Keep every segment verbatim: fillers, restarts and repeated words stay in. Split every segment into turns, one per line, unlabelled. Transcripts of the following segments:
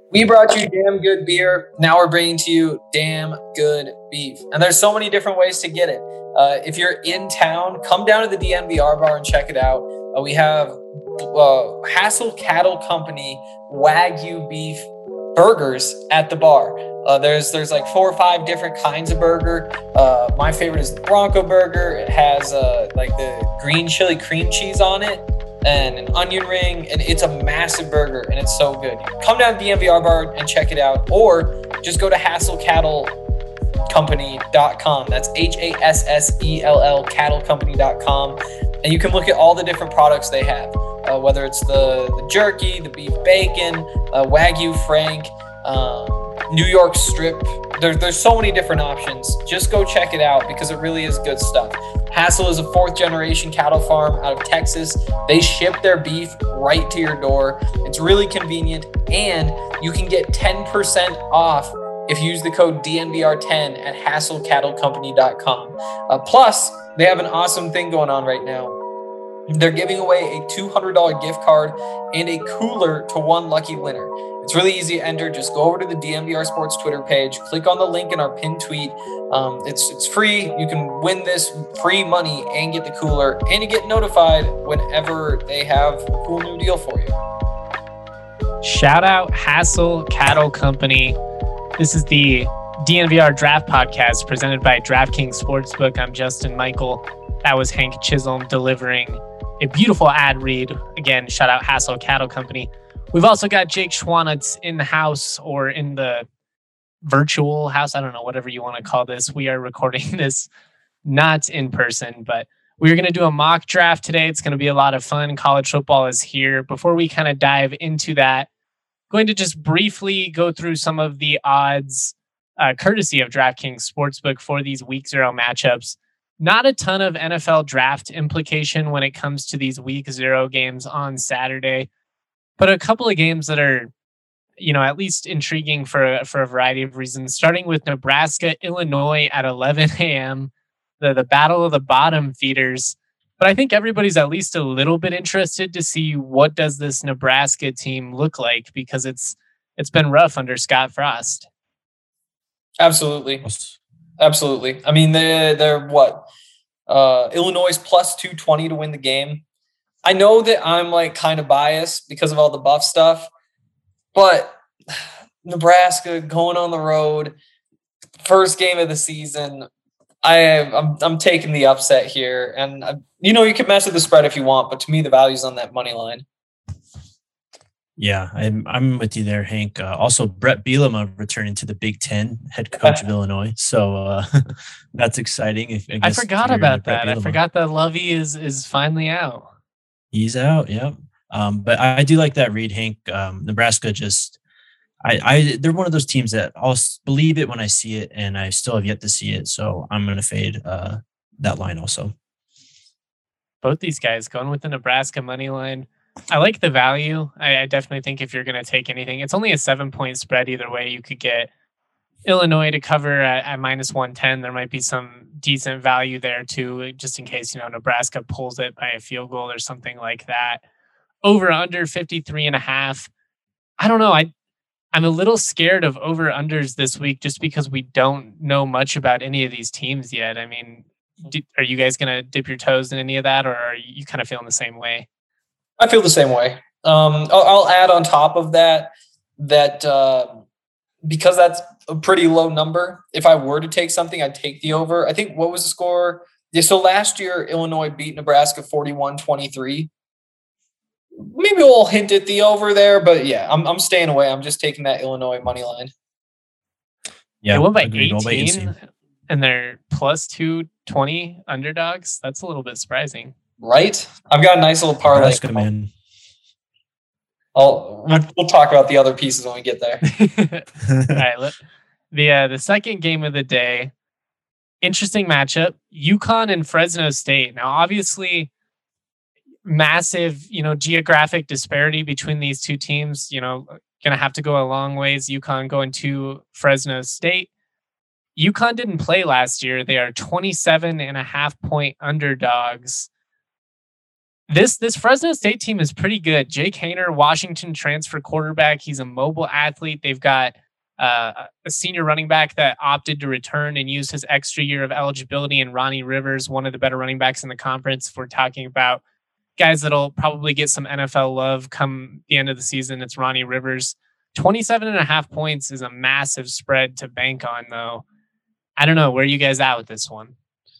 We brought you damn good beer. Now we're bringing to you damn good beef. And there's so many different ways to get it. Uh, if you're in town, come down to the D N V R bar and check it out. Uh, we have uh, Hassel Cattle Company Wagyu beef burgers at the bar. Uh, there's there's like four or five different kinds of burger. Uh, my favorite is the Bronco burger. It has uh, like the green chili cream cheese on it and an onion ring, and it's a massive burger, and it's so good. Come down to the D N V R bar and check it out, or just go to hassel cattle company dot com. That's H A S S E L L cattle company dot com, and you can look at all the different products they have, uh, whether it's the, the jerky, the beef bacon, uh, Wagyu Frank, um, New York strip. There, there's so many different options. Just go check it out because it really is good stuff. Hassel is a fourth generation cattle farm out of Texas. They ship their beef right to your door. It's really convenient, and you can get ten percent off if you use the code D N V R ten at hassel cattle company dot com. Uh, plus, they have an awesome thing going on right now. They're giving away a two hundred dollars gift card and a cooler to one lucky winner. It's really easy to enter. Just go over to the D N V R Sports Twitter page, click on the link in our pinned tweet. Um, it's it's free. You can win this free money and get the cooler, and you get notified whenever they have a cool new deal for you.
Shout out Hassel Cattle Company. This is the D N V R Draft Podcast presented by DraftKings Sportsbook. I'm Justin Michael. That was Hank Chisholm delivering a beautiful ad read. Again, shout out Hassel Cattle Company. We've also got Jake Schwanitz in the house, or in the virtual house. I don't know, whatever you want to call this. We are recording this not in person, but we're going to do a mock draft today. It's going to be a lot of fun. College football is here. Before we kind of dive into that, going to just briefly go through some of the odds, uh, courtesy of DraftKings Sportsbook for these week zero matchups. Not a ton of N F L draft implication when it comes to these week zero games on Saturday, but a couple of games that are, you know, at least intriguing for, for a variety of reasons, starting with Nebraska, Illinois at eleven a.m., the, the battle of the bottom feeders. But I think everybody's at least a little bit interested to see what does this Nebraska team look like, because it's it's been rough under Scott Frost.
Absolutely. Absolutely. I mean, they're, they're what? Uh, Illinois plus two twenty to win the game. I know that I'm like kind of biased because of all the buff stuff, but Nebraska going on the road, first game of the season, I, I'm I'm taking the upset here. And, I, you know, you can mess with the spread if you want, but to me, the value's on that money line.
Yeah, I'm I'm with you there, Hank. Uh, also, Brett Bielema returning to the Big Ten, head coach of Illinois. So uh, that's exciting. If, I,
I forgot about that. I forgot that Lovey is is finally out.
He's out, yeah. Um, but I, I do like that read, Hank. Um, Nebraska just, I, I, they're one of those teams that I'll believe it when I see it, and I still have yet to see it. So I'm going to fade uh, that line also.
Both these guys going with the Nebraska money line. I like the value. I, I definitely think if you're going to take anything, it's only a seven point spread either way. You could get Illinois to cover at, at minus one ten. There might be some decent value there too, just in case, you know, Nebraska pulls it by a field goal or something like that. Over under fifty-three and a half. I don't know. I, I'm a little scared of over unders this week just because we don't know much about any of these teams yet. I mean, do, are you guys going to dip your toes in any of that, or are you kind of feeling the same way?
I feel the same way. Um, I'll, I'll add on top of that, that uh, because that's a pretty low number, if I were to take something, I'd take the over. I think, what was the score? Yeah, so last year, Illinois beat Nebraska forty-one twenty-three. Maybe we'll hint at the over there, but yeah, I'm I'm staying away. I'm just taking that Illinois money line.
Yeah, they won by eighteen, and they're plus two twenty underdogs. That's a little bit surprising.
Right? I've got a nice little parlay.
Nebraska, man.
I'll, we'll, we'll talk about the other pieces when we get there.
All right. Let, the, uh, the second game of the day, interesting matchup, UConn and Fresno State. Now, obviously, massive, you know, geographic disparity between these two teams, you know, going to have to go a long ways. UConn going to Fresno State. UConn didn't play last year. They are twenty-seven and a half point underdogs. This this Fresno State team is pretty good. Jake Haener, Washington transfer quarterback. He's a mobile athlete. They've got uh, a senior running back that opted to return and use his extra year of eligibility, and Ronnie Rivers, one of the better running backs in the conference. If we're talking about guys that'll probably get some N F L love come the end of the season, it's Ronnie Rivers. twenty-seven and a half points is a massive spread to bank on, though. I don't know. Where are you guys at with this one?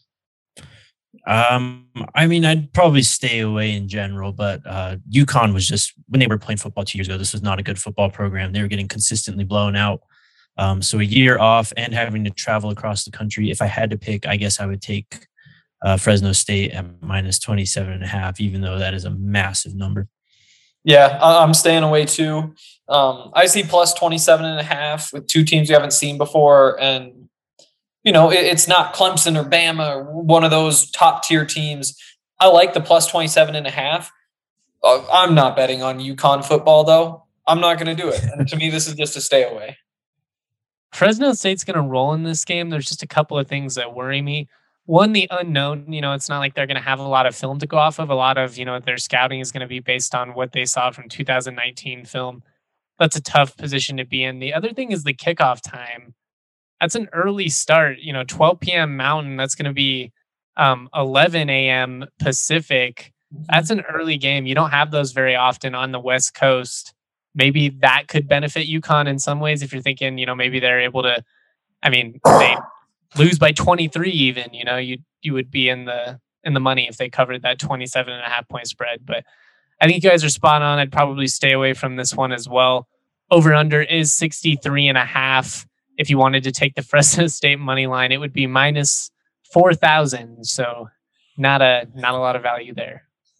Um, I mean, I'd probably stay away in general, but uh, UConn was just, when they were playing football two years ago, this was not a good football program. They were getting consistently blown out. Um, so a year off and having to travel across the country. If I had to pick, I guess I would take uh, Fresno State at minus twenty-seven and a half, even though that is a massive number.
Yeah, I'm staying away too. Um, I see plus twenty-seven and a half with two teams we haven't seen before. And you know, it's not Clemson or Bama or one of those top tier teams. I like the plus twenty-seven and a half. I'm not betting on UConn football, though. I'm not going to do it. And to me, this is just a stay away.
Fresno State's going to roll in this game. There's just a couple of things that worry me. One, the unknown. You know, it's not like they're going to have a lot of film to go off of. A lot of, you know, their scouting is going to be based on what they saw from two thousand nineteen film. That's a tough position to be in. The other thing is the kickoff time. That's an early start, you know, twelve p.m. Mountain. That's going to be um, eleven a.m. Pacific. That's an early game. You don't have those very often on the West Coast. Maybe that could benefit UConn in some ways if you're thinking, you know, maybe they're able to, I mean, they lose by twenty-three even, you know, you you would be in the in the money if they covered that twenty-seven and a half point spread. But I think you guys are spot on. I'd probably stay away from this one as well. Over under is sixty-three and a half. If you wanted to take the Fresno State money line, it would be minus four thousand. So not a not a lot of value there.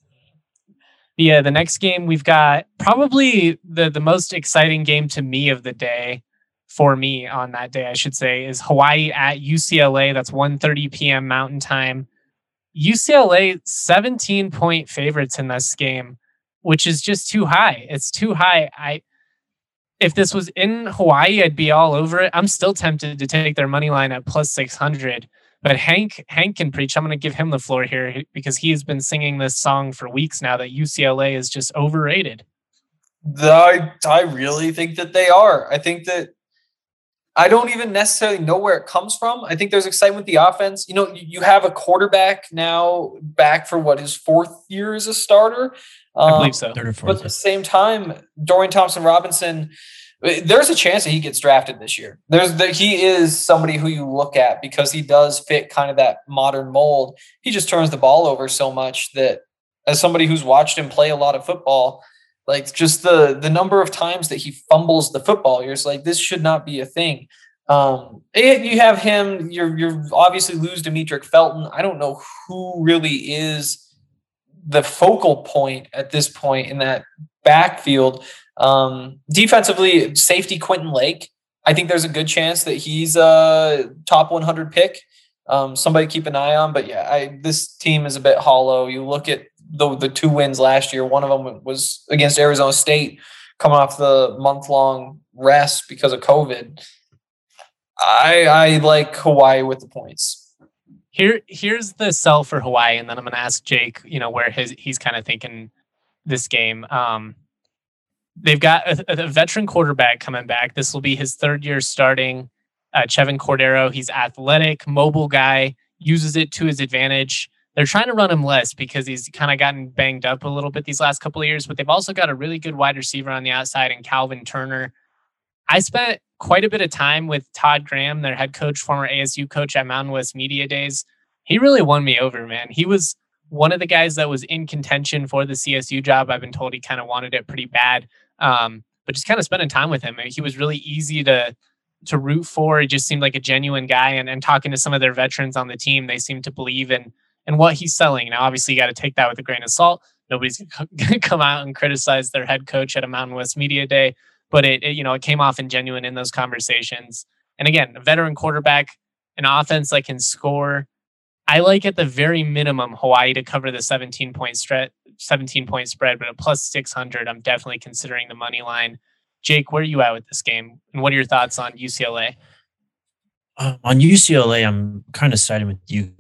Yeah, the next game we've got probably the, the most exciting game to me of the day, for me on that day, I should say, is Hawaii at U C L A. That's one thirty p.m. Mountain Time. U C L A seventeen point favorites in this game, which is just too high. It's too high. I If this was in Hawaii, I'd be all over it. I'm still tempted to take their money line at plus six hundred. But Hank Hank can preach. I'm going to give him the floor here because he has been singing this song for weeks now that U C L A is just overrated.
I, I really think that they are. I think that I don't even necessarily know where it comes from. I think there's excitement with the offense. You know, you have a quarterback now back for what, his fourth year as a starter.
I believe so.
Um, but at the same time, Dorian Thompson-Robinson, there's a chance that he gets drafted this year. There's the, he is somebody who you look at because he does fit kind of that modern mold. He just turns the ball over so much that, as somebody who's watched him play a lot of football, like just the the number of times that he fumbles the football, you're just like, this should not be a thing. Um, you have him. You're you're obviously lose Demetric Felton. I don't know who really is the focal point at this point in that backfield. Um, defensively, safety Quentin Lake. I think there's a good chance that he's a top one hundred pick. Um, somebody keep an eye on. But yeah, I, this team is a bit hollow. You look at the the two wins last year. One of them was against Arizona State, coming off the month long rest because of COVID. I I like Hawaii with the points.
Here, here's the sell for Hawaii, and then I'm going to ask Jake, you know, where his he's kind of thinking this game. Um, they've got a, a veteran quarterback coming back. This will be his third year starting. Uh, Chevin Cordero, he's athletic, mobile guy, uses it to his advantage. They're trying to run him less because he's kind of gotten banged up a little bit these last couple of years, but they've also got a really good wide receiver on the outside in Calvin Turner. I spent quite a bit of time with Todd Graham, their head coach, former A S U coach at Mountain West Media Days. He really won me over, man. He was one of the guys that was in contention for the C S U job. I've been told he kind of wanted it pretty bad. Um, but just kind of spending time with him, he was really easy to to root for. He just seemed like a genuine guy. And, and talking to some of their veterans on the team, they seem to believe in, in what he's selling. Now, obviously, you got to take that with a grain of salt. Nobody's going to come out and criticize their head coach at a Mountain West Media Day. But it, it, you know, it came off in genuine in those conversations. And again, a veteran quarterback, an offense that can score. I like at the very minimum Hawaii to cover the seventeen point spread, seventeen point spread, but at plus six hundred, I'm definitely considering the money line. Jake, where are you at with this game? And what are your thoughts on U C L A?
Uh, on U C L A, I'm kind of siding with you guys. I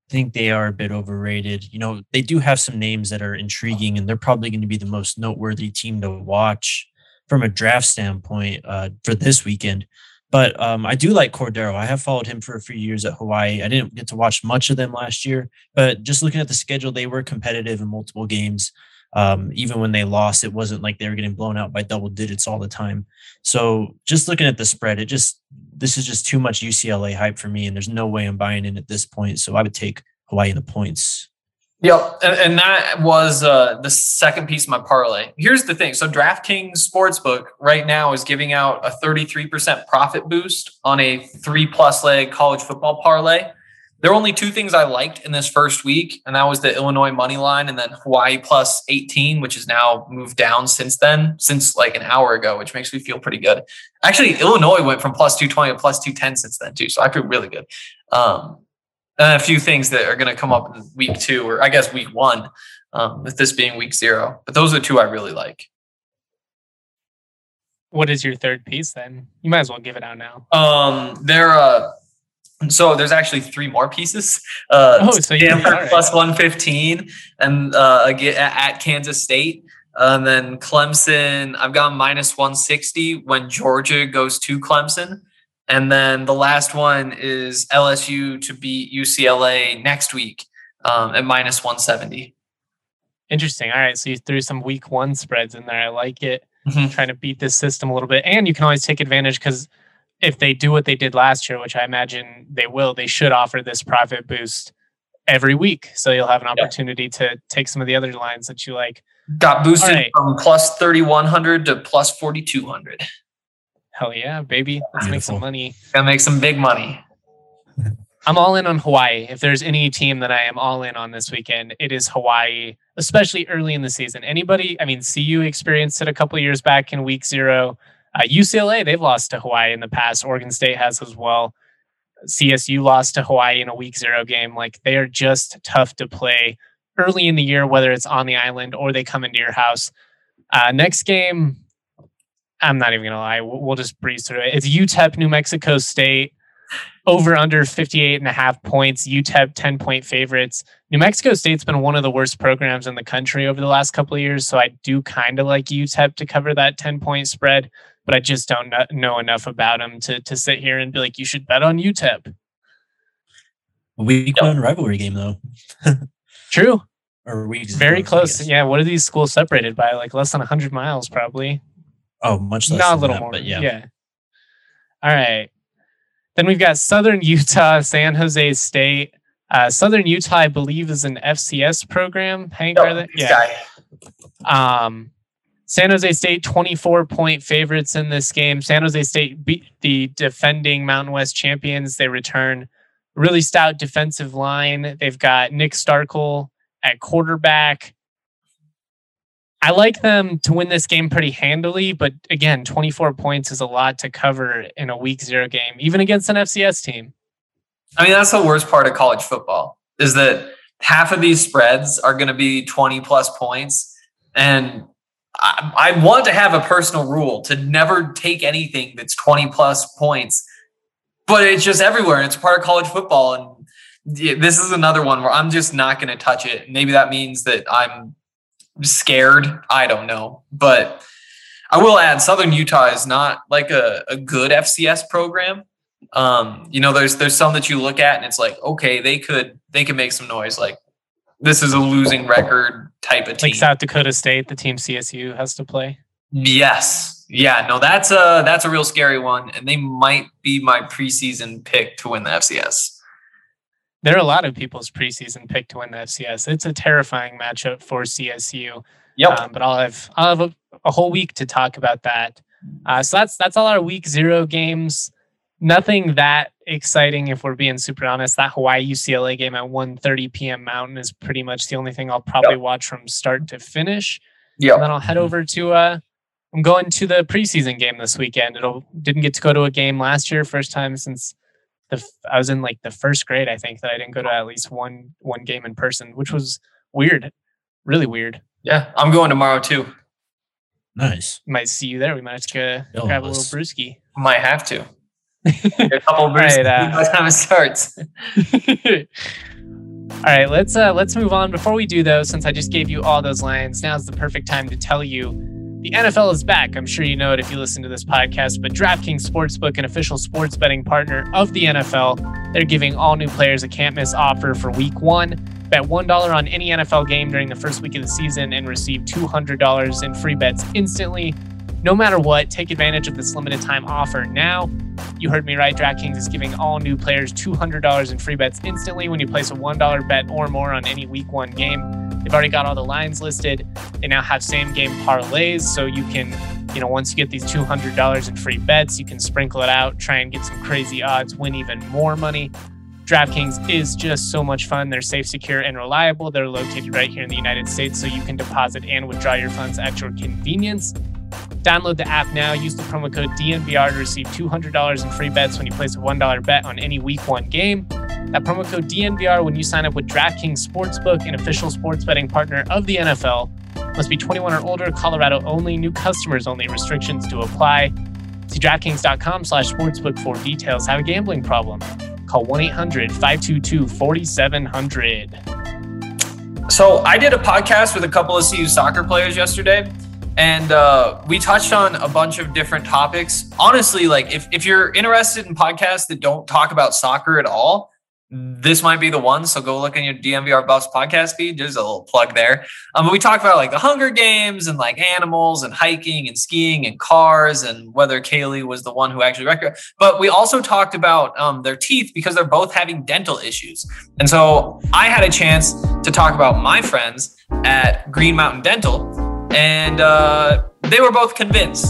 think they are a bit overrated. You know, they do have some names that are intriguing, and they're probably going to be the most noteworthy team to watch from a draft standpoint uh, for this weekend. But um, I do like Cordero. I have followed him for a few years at Hawaii. I didn't get to watch much of them last year, but just looking at the schedule, they were competitive in multiple games. Um, even when they lost, it wasn't like they were getting blown out by double digits all the time. So just looking at the spread, it just this is just too much U C L A hype for me, and there's no way I'm buying in at this point. So I would take Hawaii in the points.
Yep, and, and that was uh, the second piece of my parlay. Here's the thing. So DraftKings Sportsbook right now is giving out a thirty-three percent profit boost on a three-plus leg college football parlay. There were only two things I liked in this first week, and that was the Illinois money line and then Hawaii plus eighteen, which has now moved down since then, since like an hour ago, which makes me feel pretty good. Actually, Illinois went from plus two twenty to plus two ten since then too, so I feel really good. Um, and a few things that are going to come up in week two, or I guess week one, um, with this being week zero. But those are the two I really like.
What is your third piece then? You might as well give it out now.
Um, they're uh, so there's actually three more pieces. Uh,
oh, so you
Stanford
right.
plus one fifteen, and uh, again at Kansas State, and then Clemson. I've got minus one sixty when Georgia goes to Clemson. And then the last one is L S U to beat U C L A next week um, at minus one seventy.
Interesting. All right. So you threw some week one spreads in there. I like it.
Mm-hmm.
Trying to beat this system a little bit. And you can always take advantage because if they do what they did last year, which I imagine they will, they should offer this profit boost every week. So you'll have an opportunity yeah. to take some of the other lines that you like.
Got boosted
right.
from plus thirty-one hundred to plus forty-two hundred.
Hell yeah, baby. Let's Beautiful. Make some money.
Gotta make some big money.
I'm all in on Hawaii. If there's any team that I am all in on this weekend, it is Hawaii, especially early in the season. Anybody, I mean, C U experienced it a couple of years back in week zero. Uh, U C L A, they've lost to Hawaii in the past. Oregon State has as well. C S U lost to Hawaii in a week zero game. Like, they are just tough to play early in the year, whether it's on the island or they come into your house. Uh, next game, I'm not even going to lie. We'll just breeze through it. It's U T E P, New Mexico State, over under fifty-eight and a half points. U T E P, ten point favorites. New Mexico State's been one of the worst programs in the country over the last couple of years. So I do kind of like U T E P to cover that ten point spread, but I just don't know enough about them to, to sit here and be like, you should bet on U T E P.
Week yep. one rivalry game though.
True.
Or weeks
very
ago,
close. Yeah. What are these schools separated by? Like less than a hundred miles, probably.
Oh, much less.
Not a little
that,
more.
But yeah.
yeah. All right. Then we've got Southern Utah, San Jose State. Uh, Southern Utah, I believe, is an F C S program. Hank,
no,
are they? Yeah. Um, San Jose State, twenty-four point favorites in this game. San Jose State beat the defending Mountain West champions. They return really stout defensive line. They've got Nick Starkel at quarterback. I like them to win this game pretty handily, but again, twenty-four points is a lot to cover in a week zero game, even against an F C S team.
I mean, that's the worst part of college football is that half of these spreads are going to be twenty plus points. And I, I want to have a personal rule to never take anything that's twenty plus points, but it's just everywhere. And it's part of college football. And this is another one where I'm just not going to touch it. Maybe that means that I'm scared. I don't know. But I will add Southern Utah is not like a, a good F C S program. Um, you know, there's there's some that you look at and it's like, okay, they could they could make some noise. Like this is a losing record type of team.
Like South Dakota State, the team C S U has to play.
Yes. Yeah, no, that's a that's a real scary one. And they might be my preseason pick to win the F C S.
There are a lot of people's preseason pick to win the F C S. It's a terrifying matchup for C S U.
Yep.
Um, but I'll have I'll have a, a whole week to talk about that. Uh, so that's that's all our week zero games. Nothing that exciting, if we're being super honest. That Hawaii U C L A game at one thirty p.m. Mountain is pretty much the only thing I'll probably yep. watch from start to finish.
Yeah.
And then I'll head over to. Uh, I'm going to the preseason game this weekend. It'll didn't get to go to a game last year. First time since the I was in like the first grade. I think that I didn't go to at least one one game in person, which was weird, really weird.
Yeah, I'm going tomorrow too.
Nice.
Might see you there. We might have to go
Yo,
grab a little brewski.
Might have to. A couple of brewskis
right, uh,
by the time it starts.
All right, let's uh, let's move on. Before we do, though, since I just gave you all those lines, now's the perfect time to tell you the N F L is back. I'm sure you know it if you listen to this podcast, but DraftKings Sportsbook, an official sports betting partner of the N F L, they're giving all new players a can't-miss offer for Week One. Bet one dollar on any N F L game during the first week of the season and receive two hundred dollars in free bets instantly. No matter what, take advantage of this limited time offer now. You heard me right. DraftKings is giving all new players two hundred dollars in free bets instantly when you place a one dollar bet or more on any Week One game. They've already got all the lines listed. They now have same game parlays, so you can, you know, once you get these two hundred dollars in free bets, you can sprinkle it out, try and get some crazy odds, win even more money. DraftKings is just so much fun. They're safe, secure, and reliable. They're located right here in the United States, so you can deposit and withdraw your funds at your convenience. Download the app now. Use the promo code D N V R to receive two hundred dollars in free bets when you place a one dollar bet on any Week One game. That promo code D N V R when you sign up with DraftKings Sportsbook, an official sports betting partner of the N F L. Must be twenty-one or older, Colorado only, new customers only, restrictions to apply. See DraftKings.com slash sportsbook for details. Have a gambling problem? Call one eight hundred five two two four seven zero zero.
So I did a podcast with a couple of C U soccer players yesterday. And uh, we touched on a bunch of different topics. Honestly, like if, if you're interested in podcasts that don't talk about soccer at all, this might be the one. So go look in your D N V R Buffs podcast feed. There's a little plug there. Um, but we talked about like the Hunger Games and like animals and hiking and skiing and cars and whether Kaylee was the one who actually wrecked her. But we also talked about um, their teeth because they're both having dental issues. And so I had a chance to talk about my friends at Green Mountain Dental. And uh, they were both convinced.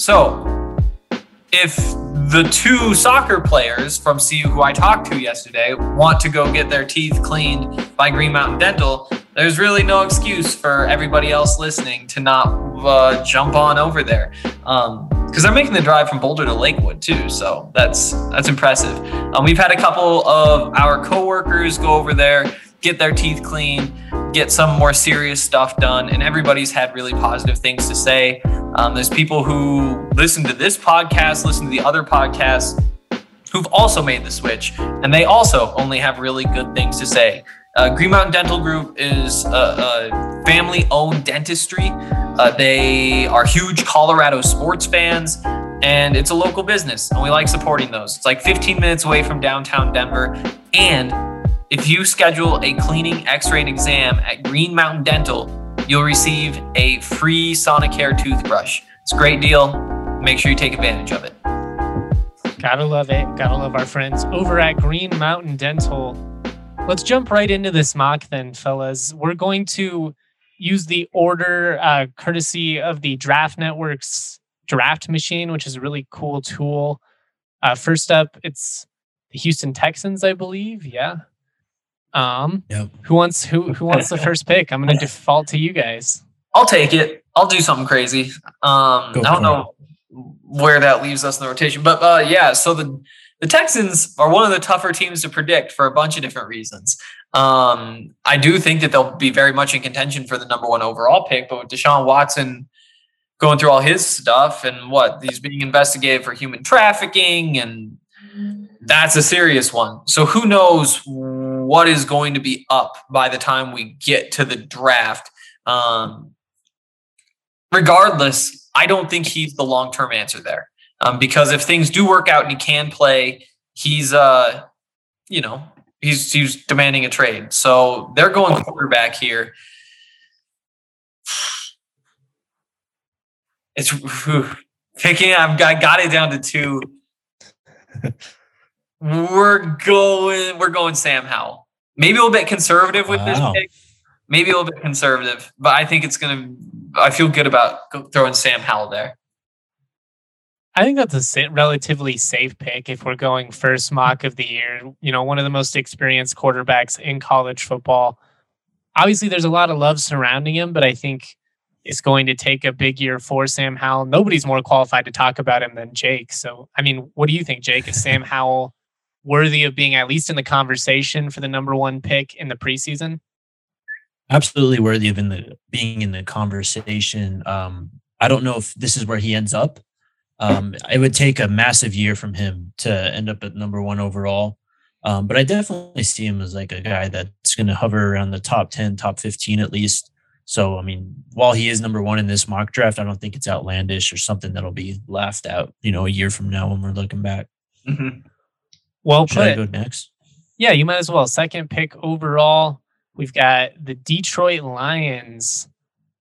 So if the two soccer players from C U who I talked to yesterday want to go get their teeth cleaned by Green Mountain Dental, there's really no excuse for everybody else listening to not uh, jump on over there. Um, because they're making the drive from Boulder to Lakewood too. So that's that's impressive. Um, we've had a couple of our coworkers go over there, get their teeth cleaned, get some more serious stuff done, and everybody's had really positive things to say. Um, there's people who listen to this podcast, listen to the other podcasts, who've also made the switch, and they also only have really good things to say. Uh, Green Mountain Dental Group is a, a family-owned dentistry. Uh, they are huge Colorado sports fans, and it's a local business, and we like supporting those. It's like fifteen minutes away from downtown Denver, and if you schedule a cleaning, x-ray, and exam at Green Mountain Dental, you'll receive a free Sonicare toothbrush. It's a great deal. Make sure you take advantage of it.
Gotta love it. Gotta love our friends over at Green Mountain Dental. Let's jump right into this mock then, fellas. We're going to use the order uh, courtesy of the Draft Network's draft machine, which is a really cool tool. Uh, first up, it's the Houston Texans, I believe. Yeah. Um, yep. Who wants who who wants the first pick? I'm going to default to you guys.
I'll take it. I'll do something crazy. Um, I don't know where that leaves us in the rotation, but uh, yeah. So the the Texans are one of the tougher teams to predict for a bunch of different reasons. Um, I do think that they'll be very much in contention for the number one overall pick, but with Deshaun Watson going through all his stuff and what he's being investigated for human trafficking, and that's a serious one. So who knows what is going to be up by the time we get to the draft. Um, regardless, I don't think he's the long-term answer there. Um, because if things do work out and he can play, he's, uh, you know, he's, he's demanding a trade. So they're going quarterback here. It's whew, picking, I've got, got it down to two. We're going, we're going Sam Howell. Maybe a little bit conservative with wow. this pick. Maybe a little bit conservative, but I think it's going to, I feel good about throwing Sam Howell there.
I think that's a relatively safe pick if we're going first mock of the year. You know, one of the most experienced quarterbacks in college football. Obviously, there's a lot of love surrounding him, but I think it's going to take a big year for Sam Howell. Nobody's more qualified to talk about him than Jake. So, I mean, what do you think, Jake? Is Sam Howell worthy of being at least in the conversation for the number one pick in the preseason?
Absolutely worthy of in the being in the conversation. Um, I don't know if this is where he ends up. Um, it would take a massive year from him to end up at number one overall. Um, but I definitely see him as like a guy that's going to hover around the top ten, top fifteen at least. So, I mean, while he is number one in this mock draft, I don't think it's outlandish or something that'll be laughed out, you know, a year from now when we're looking back.
Mm-hmm.
Well
Should
put.
I go next?
Yeah, you might as well. Second pick overall, we've got the Detroit Lions.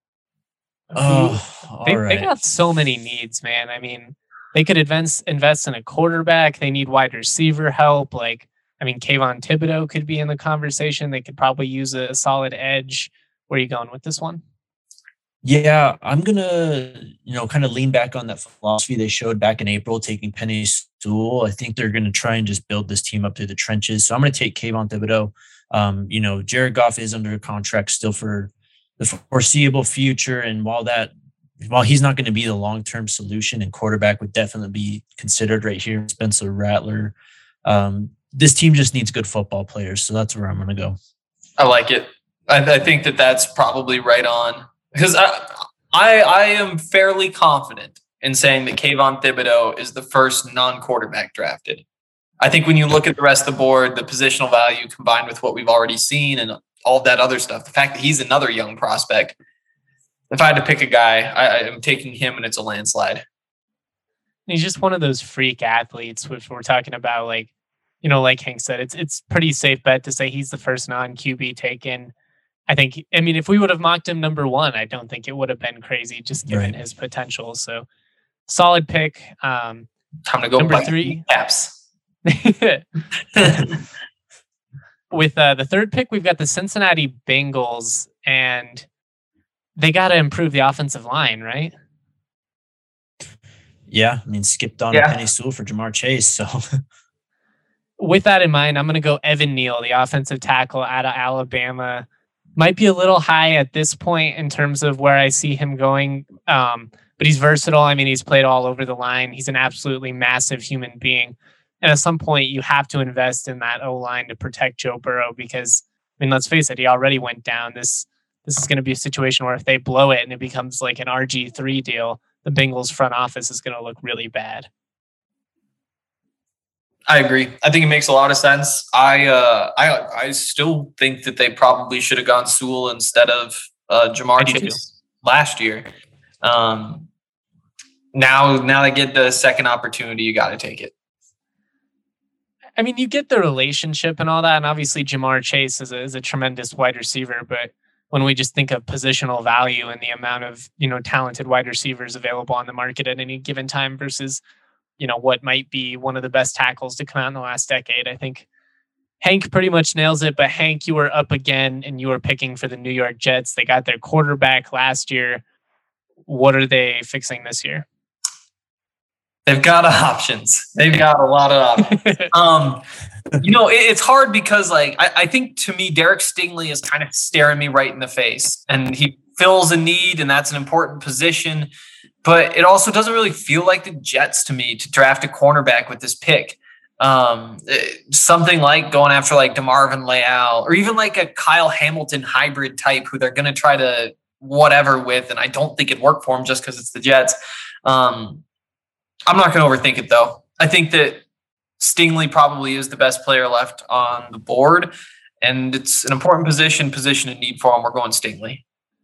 Oh,
they,
all right.
they got so many needs, man. I mean, they could invest invest in a quarterback. They need wide receiver help. Like, I mean, Kayvon Thibodeau could be in the conversation. They could probably use a, a solid edge. Where are you going with this one?
Yeah, I'm gonna, you know, kind of lean back on that philosophy they showed back in April, taking Penny Sewell. I think they're gonna try and just build this team up through the trenches. So I'm gonna take Kayvon Thibodeau. Um, you know, Jared Goff is under contract still for the foreseeable future, and while that, while he's not going to be the long-term solution, and quarterback would definitely be considered right here, Spencer Rattler. Um, this team just needs good football players, so that's where I'm gonna go.
I like it. I, I think that that's probably right on. Because I, I I am fairly confident in saying that Kayvon Thibodeau is the first non-quarterback drafted. I think when you look at the rest of the board, the positional value combined with what we've already seen and all of that other stuff, the fact that he's another young prospect, if I had to pick a guy, I, I'm taking him and it's a landslide.
He's just one of those freak athletes, which we're talking about. Like, you know, like Hank said, it's it's pretty safe bet to say he's the first non-Q B taken. I think, I mean, if we would have mocked him number one, I don't think it would have been crazy just given
right.
his potential. So solid pick. Um,
Time to go
number three.
Caps.
With uh, the third pick, we've got the Cincinnati Bengals, and they got to improve the offensive line, right?
Yeah, I mean, skipped on
yeah.
Penny Sewell for Jamar Chase. So,
with that in mind, I'm going to go Evan Neal, the offensive tackle out of Alabama. Might be a little high at this point in terms of where I see him going, um, but he's versatile. I mean, he's played all over the line. He's an absolutely massive human being. And at some point, you have to invest in that O-line to protect Joe Burrow because, I mean, let's face it, he already went down. This this is going to be a situation where if they blow it and it becomes like an R G three deal, the Bengals front office is going to look really bad.
I agree. I think it makes a lot of sense. I uh, I I still think that they probably should have gone Sewell instead of uh, Jamar Chase last year. Um, now, now they get the second opportunity. You got to take it.
I mean, you get the relationship and all that, and obviously Jamar Chase is a, is a tremendous wide receiver. But when we just think of positional value and the amount of, you know, talented wide receivers available on the market at any given time versus, you know, what might be one of the best tackles to come out in the last decade, I think Hank pretty much nails it. But Hank, you were up again and you were picking for the New York Jets. They got their quarterback last year. What are they fixing this year?
They've got options. They've got a lot of options. um, you know, it, it's hard because, like, I, I think to me, Derek Stingley is kind of staring me right in the face, and he fills a need, and that's an important position. But it also doesn't really feel like the Jets to me to draft a cornerback with this pick. Um, something like going after like DeMarvin Leal or even like a Kyle Hamilton hybrid type who they're going to try to whatever with, and I don't think it'd work for him just because it's the Jets. Um, I'm not going to overthink it, though. I think that Stingley probably is the best player left on the board, and it's an important position, position in need for him. We're going Stingley.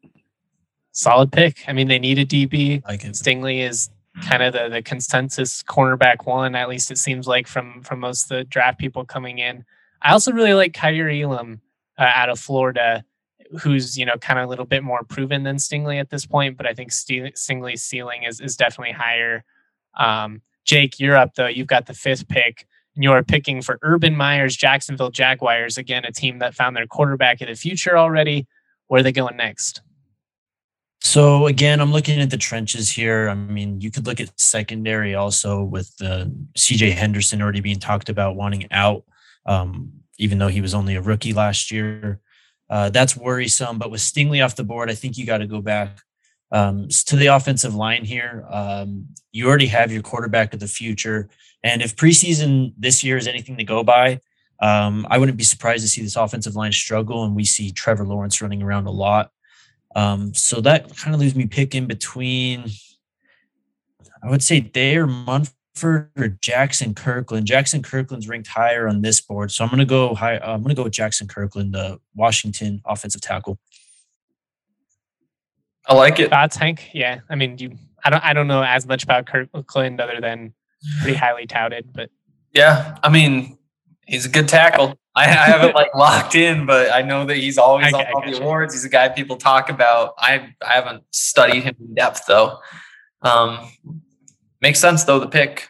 Solid pick. I mean, they need a D B.
Like
Stingley is kind of the, the consensus cornerback one, at least it seems like from, from most of the draft people coming in. I also really like Kyrie Elam uh, out of Florida, who's, you know, kind of a little bit more proven than Stingley at this point, but I think St- Stingley's ceiling is, is definitely higher. Um, Jake, you're up though. You've got the fifth pick and you're picking for Urban Meyer's Jacksonville Jaguars. Again, a team that found their quarterback of the future already. Where are they going next?
So again, I'm looking at the trenches here. I mean, you could look at secondary also with uh, C J Henderson already being talked about wanting out, um, even though he was only a rookie last year. Uh, that's worrisome. But with Stingley off the board, I think you got to go back um, to the offensive line here. Um, you already have your quarterback of the future. And if preseason this year is anything to go by, um, I wouldn't be surprised to see this offensive line struggle. And we see Trevor Lawrence running around a lot. Um, so that kind of leaves me picking between, I would say Thayer Munford Stafford or Jackson Kirkland. Jackson Kirkland's ranked higher on this board, so I'm gonna go high. I'm gonna go with Jackson Kirkland, the Washington offensive tackle.
I like it.
Thoughts, Hank? Yeah, I mean, you. I don't. I don't know as much about Kirkland other than pretty highly touted, but
yeah, I mean, he's a good tackle. I, I haven't like locked in, but I know that he's always
I,
on
I
all the
you.
awards. He's a guy people talk about. I I haven't studied him in depth though. Um, makes sense though the pick.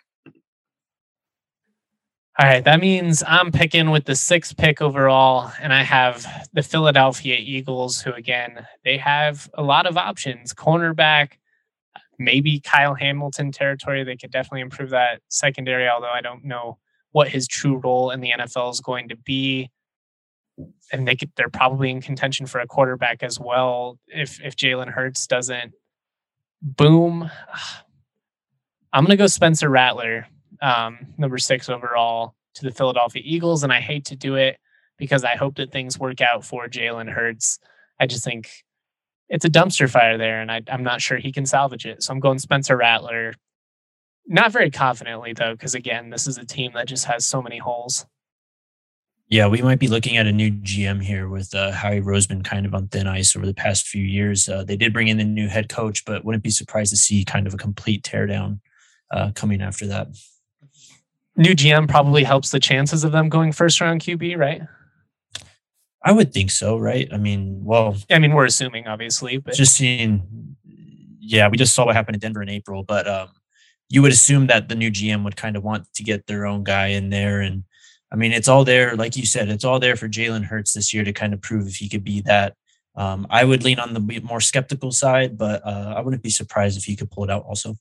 All right, that means I'm picking with the sixth pick overall, and I have the Philadelphia Eagles, who, again, they have a lot of options. Cornerback, maybe Kyle Hamilton territory. They could definitely improve that secondary, although I don't know what his true role in the N F L is going to be. And they could, they're probably in contention for a quarterback as well if, if Jalen Hurts doesn't boom. I'm going to go Spencer Rattler. Um, number six overall to the Philadelphia Eagles. And I hate to do it because I hope that things work out for Jalen Hurts. I just think it's a dumpster fire there, and I, I'm not sure he can salvage it. So I'm going Spencer Rattler. Not very confidently, though, because, again, this is a team that just has so many holes.
Yeah, we might be looking at a new G M here with uh, Howie Roseman kind of on thin ice over the past few years. Uh, they did bring in the new head coach, but wouldn't be surprised to see kind of a complete teardown uh, coming after that.
New G M probably helps the chances of them going first round Q B, right?
I would think so, right? I mean, well,
I mean, we're assuming, obviously, but
just seeing, yeah, we just saw what happened in Denver in April, but um, you would assume that the new G M would kind of want to get their own guy in there. And I mean, it's all there, like you said, it's all there for Jalen Hurts this year to kind of prove if he could be that. Um, I would lean on the more skeptical side, but uh, I wouldn't be surprised if he could pull it out also.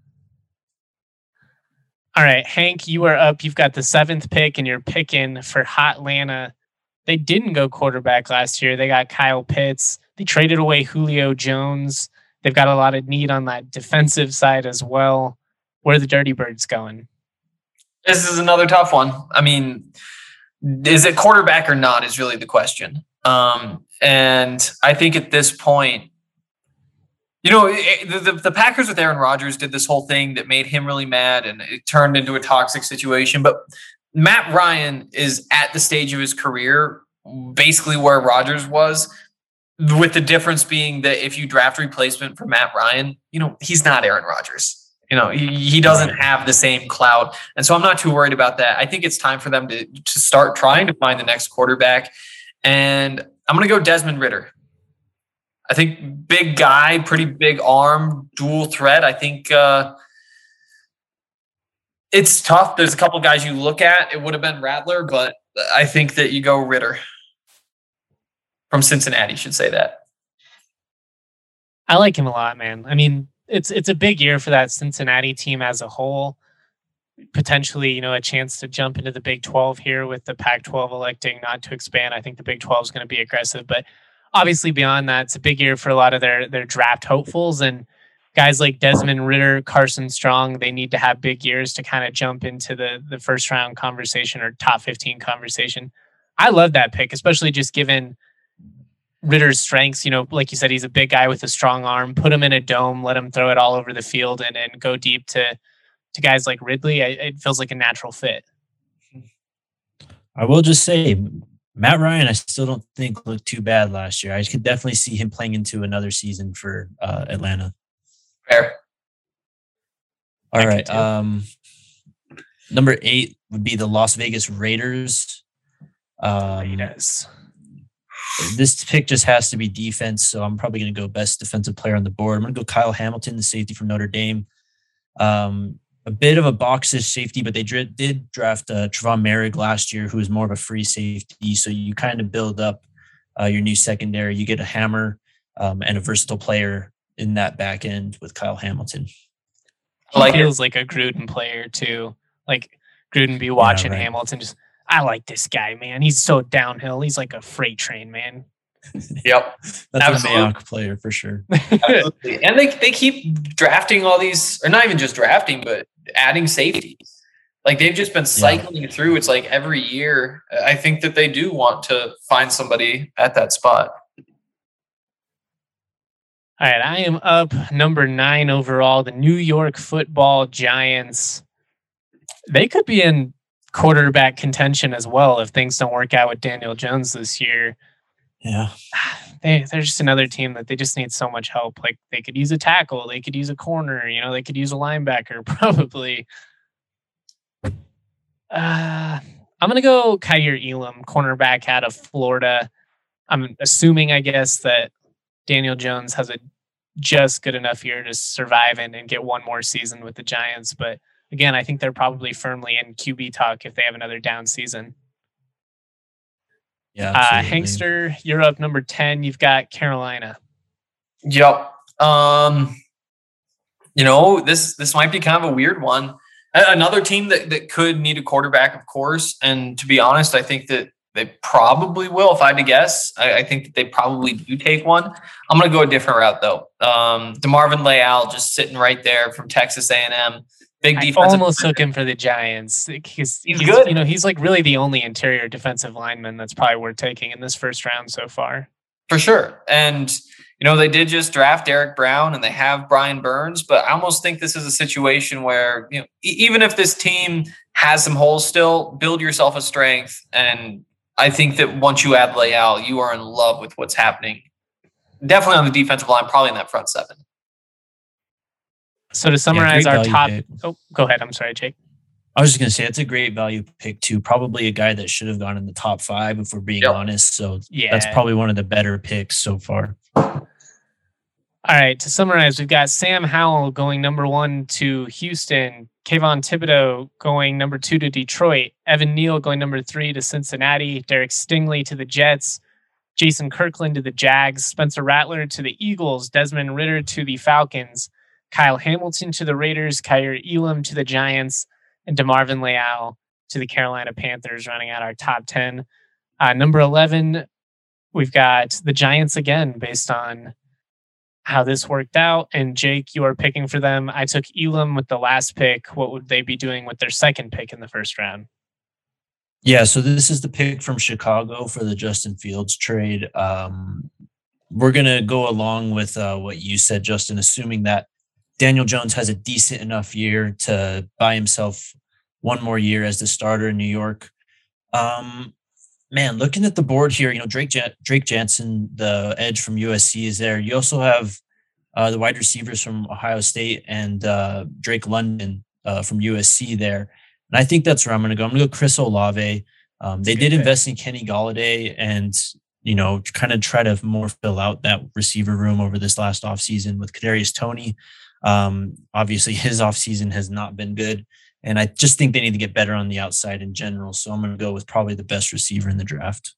All right, Hank, you are up. You've got the seventh pick, and you're picking for Hot Atlanta. They didn't go quarterback last year. They got Kyle Pitts. They traded away Julio Jones. They've got a lot of need on that defensive side as well. Where are the Dirty Birds going?
This is another tough one. I mean, is it quarterback or not is really the question. Um, and I think at this point, you know, the, the, the Packers with Aaron Rodgers did this whole thing that made him really mad, and it turned into a toxic situation. But Matt Ryan is at the stage of his career, basically where Rodgers was, with the difference being that if you draft a replacement for Matt Ryan, you know, he's not Aaron Rodgers. You know, he, he doesn't have the same clout. And so I'm not too worried about that. I think it's time for them to, to start trying to find the next quarterback. And I'm going to go Desmond Ridder. I think big guy, pretty big arm, dual threat. I think uh, it's tough. There's a couple guys you look at. It would have been Rattler, but I think that you go Ridder from Cincinnati, should say that.
I like him a lot, man. I mean, it's it's a big year for that Cincinnati team as a whole. Potentially, you know, a chance to jump into the Big twelve here with the Pac twelve electing not to expand. I think the Big twelve is going to be aggressive, but obviously beyond that, it's a big year for a lot of their their draft hopefuls, and guys like Desmond Ridder, Carson Strong, they need to have big years to kind of jump into the, the first round conversation or top fifteen conversation. I love that pick, especially just given Ridder's strengths. You know, like you said, he's a big guy with a strong arm. Put him in a dome, let him throw it all over the field and, and go deep to, to guys like Ridley. I, it feels like a natural fit.
I will just say, Matt Ryan, I still don't think looked too bad last year. I could definitely see him playing into another season for uh, Atlanta.
Fair.
All right. Um, number eight would be the Las Vegas Raiders. Um,
yes.
This pick just has to be defense, so I'm probably going to go best defensive player on the board. I'm going to go Kyle Hamilton, the safety from Notre Dame. Um, a bit of a boxish safety, but they did, did draft uh, Trevon Merrick last year, who is more of a free safety. So you kind of build up uh, your new secondary. You get a hammer um, and a versatile player in that back end with Kyle Hamilton.
He like feels it. Like a Gruden player too. Like Gruden be watching yeah, right. Hamilton. Just, I like this guy, man. He's so downhill. He's like a freight train, man.
Yep.
That's Absolutely. a Mayock player for sure.
Absolutely. And they, they keep drafting all these, or not even just drafting, but adding safeties. Like they've just been cycling yeah. through. It's like every year. I think that they do want to find somebody at that spot.
All right, I am up number nine overall. The New York Football Giants. They could be in quarterback contention as well if things don't work out with Daniel Jones this year.
Yeah.
They, they're just another team that they just need so much help. Like they could use a tackle, they could use a corner, you know, they could use a linebacker probably. Uh, I'm going to go Kaiir Elam, cornerback out of Florida. I'm assuming, I guess, that Daniel Jones has a just good enough year to survive and, and get one more season with the Giants. But again, I think they're probably firmly in Q B talk if they have another down season.
Yeah.
Uh, Hankster, you're up number ten. You've got Carolina.
Yep. Um, you know, this this might be kind of a weird one. Another team that, that could need a quarterback, of course. And to be honest, I think that they probably will. If I had to guess, I, I think that they probably do take one. I'm going to go a different route, though. Um, DeMarvin Leal just sitting right there from Texas A and M. Big defensive.
I almost took him for the Giants. He's,
he's,
he's
good.
You know, he's like really the only interior defensive lineman that's probably worth taking in this first round so far.
For sure. And, you know, they did just draft Derek Brown and they have Brian Burns, but I almost think this is a situation where, you know, e- even if this team has some holes still, build yourself a strength. And I think that once you add Leal, you are in love with what's happening. Definitely on the defensive line, probably in that front seven.
So to summarize
yeah,
our top,
pick.
oh, go ahead. I'm sorry, Jake.
I was just going to say it's a great value pick too. Probably a guy that should have gone in the top five if we're being yep. honest. So yeah, that's probably one of the better picks so far.
All right. To summarize, we've got Sam Howell going number one to Houston, Kayvon Thibodeau going number two to Detroit, Evan Neal going number three to Cincinnati, Derek Stingley to the Jets, Jason Kirkland to the Jags, Spencer Rattler to the Eagles, Desmond Ridder to the Falcons, Kyle Hamilton to the Raiders, Kaiir Elam to the Giants, and DeMarvin Leal to the Carolina Panthers, running out our top ten. Uh, number eleven, we've got the Giants again, based on how this worked out. And Jake, you are picking for them. I took Elam with the last pick. What would they be doing with their second pick in the first round?
Yeah, so this is the pick from Chicago for the Justin Fields trade. Um, we're going to go along with uh, what you said, Justin, assuming that Daniel Jones has a decent enough year to buy himself one more year as the starter in New York. Um, man, looking at the board here, you know, Drake Jan- Drake Jansen, the edge from U S C, is there. You also have uh, the wide receivers from Ohio State and uh, Drake London uh, from U S C there. And I think that's where I'm going to go. I'm going to go Chris Olave. Um, they did invest in Kenny Golladay and, you know, kind of try to more fill out that receiver room over this last offseason with Kadarius Toney. Um, obviously, his offseason has not been good. And I just think they need to get better on the outside in general. So I'm going to go with probably the best receiver in the draft.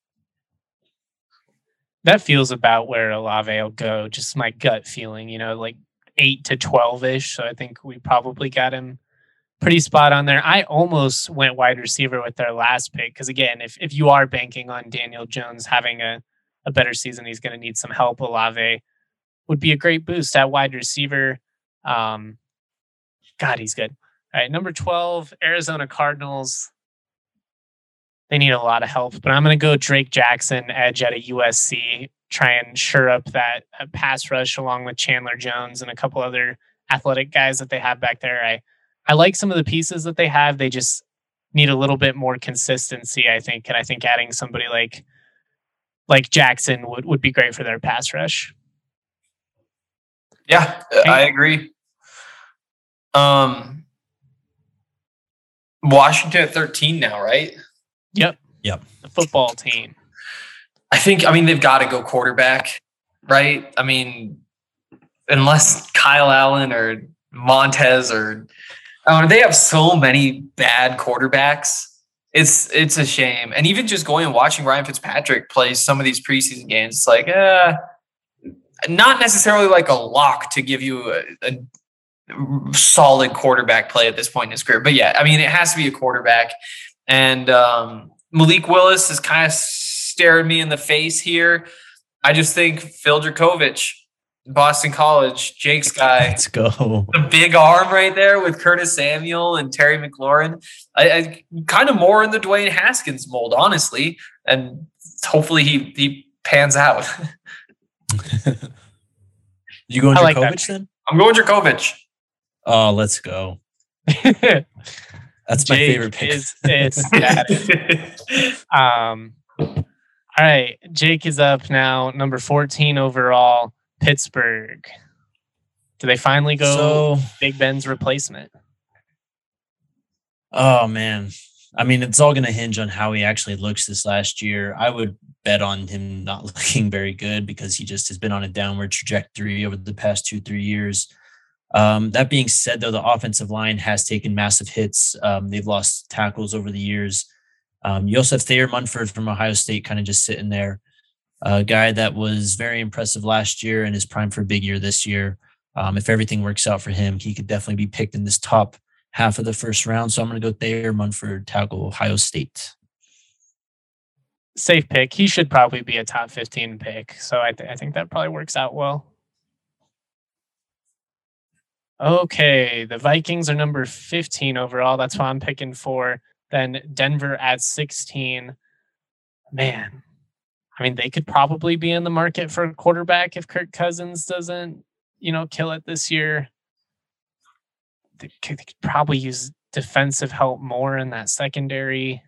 That feels about where Olave will go. Just my gut feeling, you know, like eight to twelve-ish. So I think we probably got him pretty spot on there. I almost went wide receiver with their last pick. Because again, if, if you are banking on Daniel Jones having a, a better season, he's going to need some help. Olave would be a great boost at wide receiver. Um, God, he's good. All right, number twelve, Arizona Cardinals. They need a lot of help, but I'm going to go Drake Jackson, edge at a U S C, try and shore up that uh, pass rush along with Chandler Jones and a couple other athletic guys that they have back there. I, I like some of the pieces that they have. They just need a little bit more consistency, I think. And I think adding somebody like like Jackson would, would be great for their pass rush.
Yeah, okay. I agree. Um, Washington at thirteen now, right?
Yep.
Yep.
The football team.
I think, I mean, they've got to go quarterback, right? I mean, unless Kyle Allen or Montez or uh, they have so many bad quarterbacks. It's it's a shame. And even just going and watching Ryan Fitzpatrick play some of these preseason games, it's like, uh, not necessarily like a lock to give you a, a solid quarterback play at this point in his career. But yeah, I mean, it has to be a quarterback. And um, Malik Willis is kind of staring me in the face here. I just think Phil Dracovic, Boston College, Jake's guy.
Let's go.
The big arm right there with Curtis Samuel and Terry McLaurin. I, I kind of more in the Dwayne Haskins mold, honestly. And hopefully he, he pans out.
You going
like
Dracovic then?
I'm going Dracovic.
Oh, let's go. That's my
Jake
favorite pick.
Is ecstatic. um, all right, Jake is up now, number fourteen overall, Pittsburgh. Do they finally go
So,
Big Ben's replacement?
oh man, I mean, it's all going to hinge on how he actually looks this last year. I would bet on him not looking very good because he just has been on a downward trajectory over the past two, three years. Um, that being said, though, the offensive line has taken massive hits. Um, they've lost tackles over the years. Um, you also have Thayer Munford from Ohio State kind of just sitting there, a guy that was very impressive last year and is primed for a big year this year. Um, if everything works out for him, he could definitely be picked in this top half of the first round. So I'm going to go Thayer Munford, tackle, Ohio State.
Safe pick. He should probably be a top fifteen pick. So I, th- I think that probably works out well. Okay, the Vikings are number fifteen overall. That's why I'm picking for. Then Denver at sixteen. Man, I mean, they could probably be in the market for a quarterback if Kirk Cousins doesn't, you know, kill it this year. They could, they could probably use defensive help more in that secondary.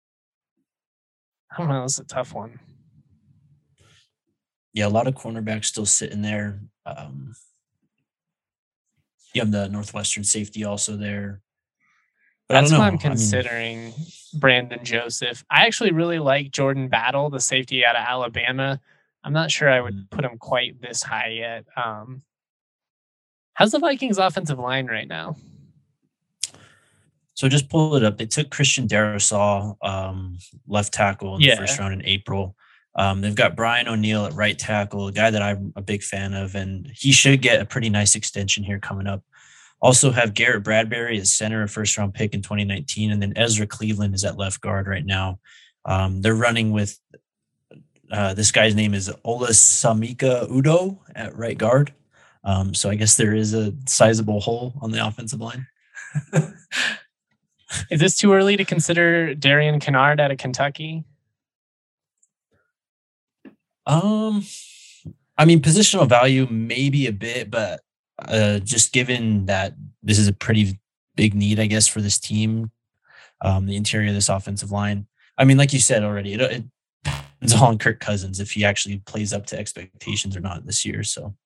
I don't know. It's a tough one.
Yeah, a lot of cornerbacks still sitting there. Um, you have the Northwestern safety also there. But
That's
I don't know.
why I'm
I mean,
considering Brandon Joseph. I actually really like Jordan Battle, the safety out of Alabama. I'm not sure I would
Mm.
put him quite this high yet. Um, how's the Vikings offensive line right now?
So just pull it up. They took Christian Darrisaw, um, left tackle in
Yeah.
the first round in April. Um, they've got Brian O'Neill at right tackle, a guy that I'm a big fan of, and he should get a pretty nice extension here coming up. Also have Garrett Bradbury as center, a first round pick in twenty nineteen, and then Ezra Cleveland is at left guard right now. Um, they're running with uh, this guy's name is Olasamika Udo at right guard. Um, so I guess there is a sizable hole on the offensive line.
Is this too early to consider Darian Kennard out of Kentucky?
Um, I mean, positional value maybe a bit, but uh, just given that this is a pretty big need, I guess, for this team, um, the interior of this offensive line. I mean, like you said already, it, it depends on Kirk Cousins if he actually plays up to expectations or not this year. So,
All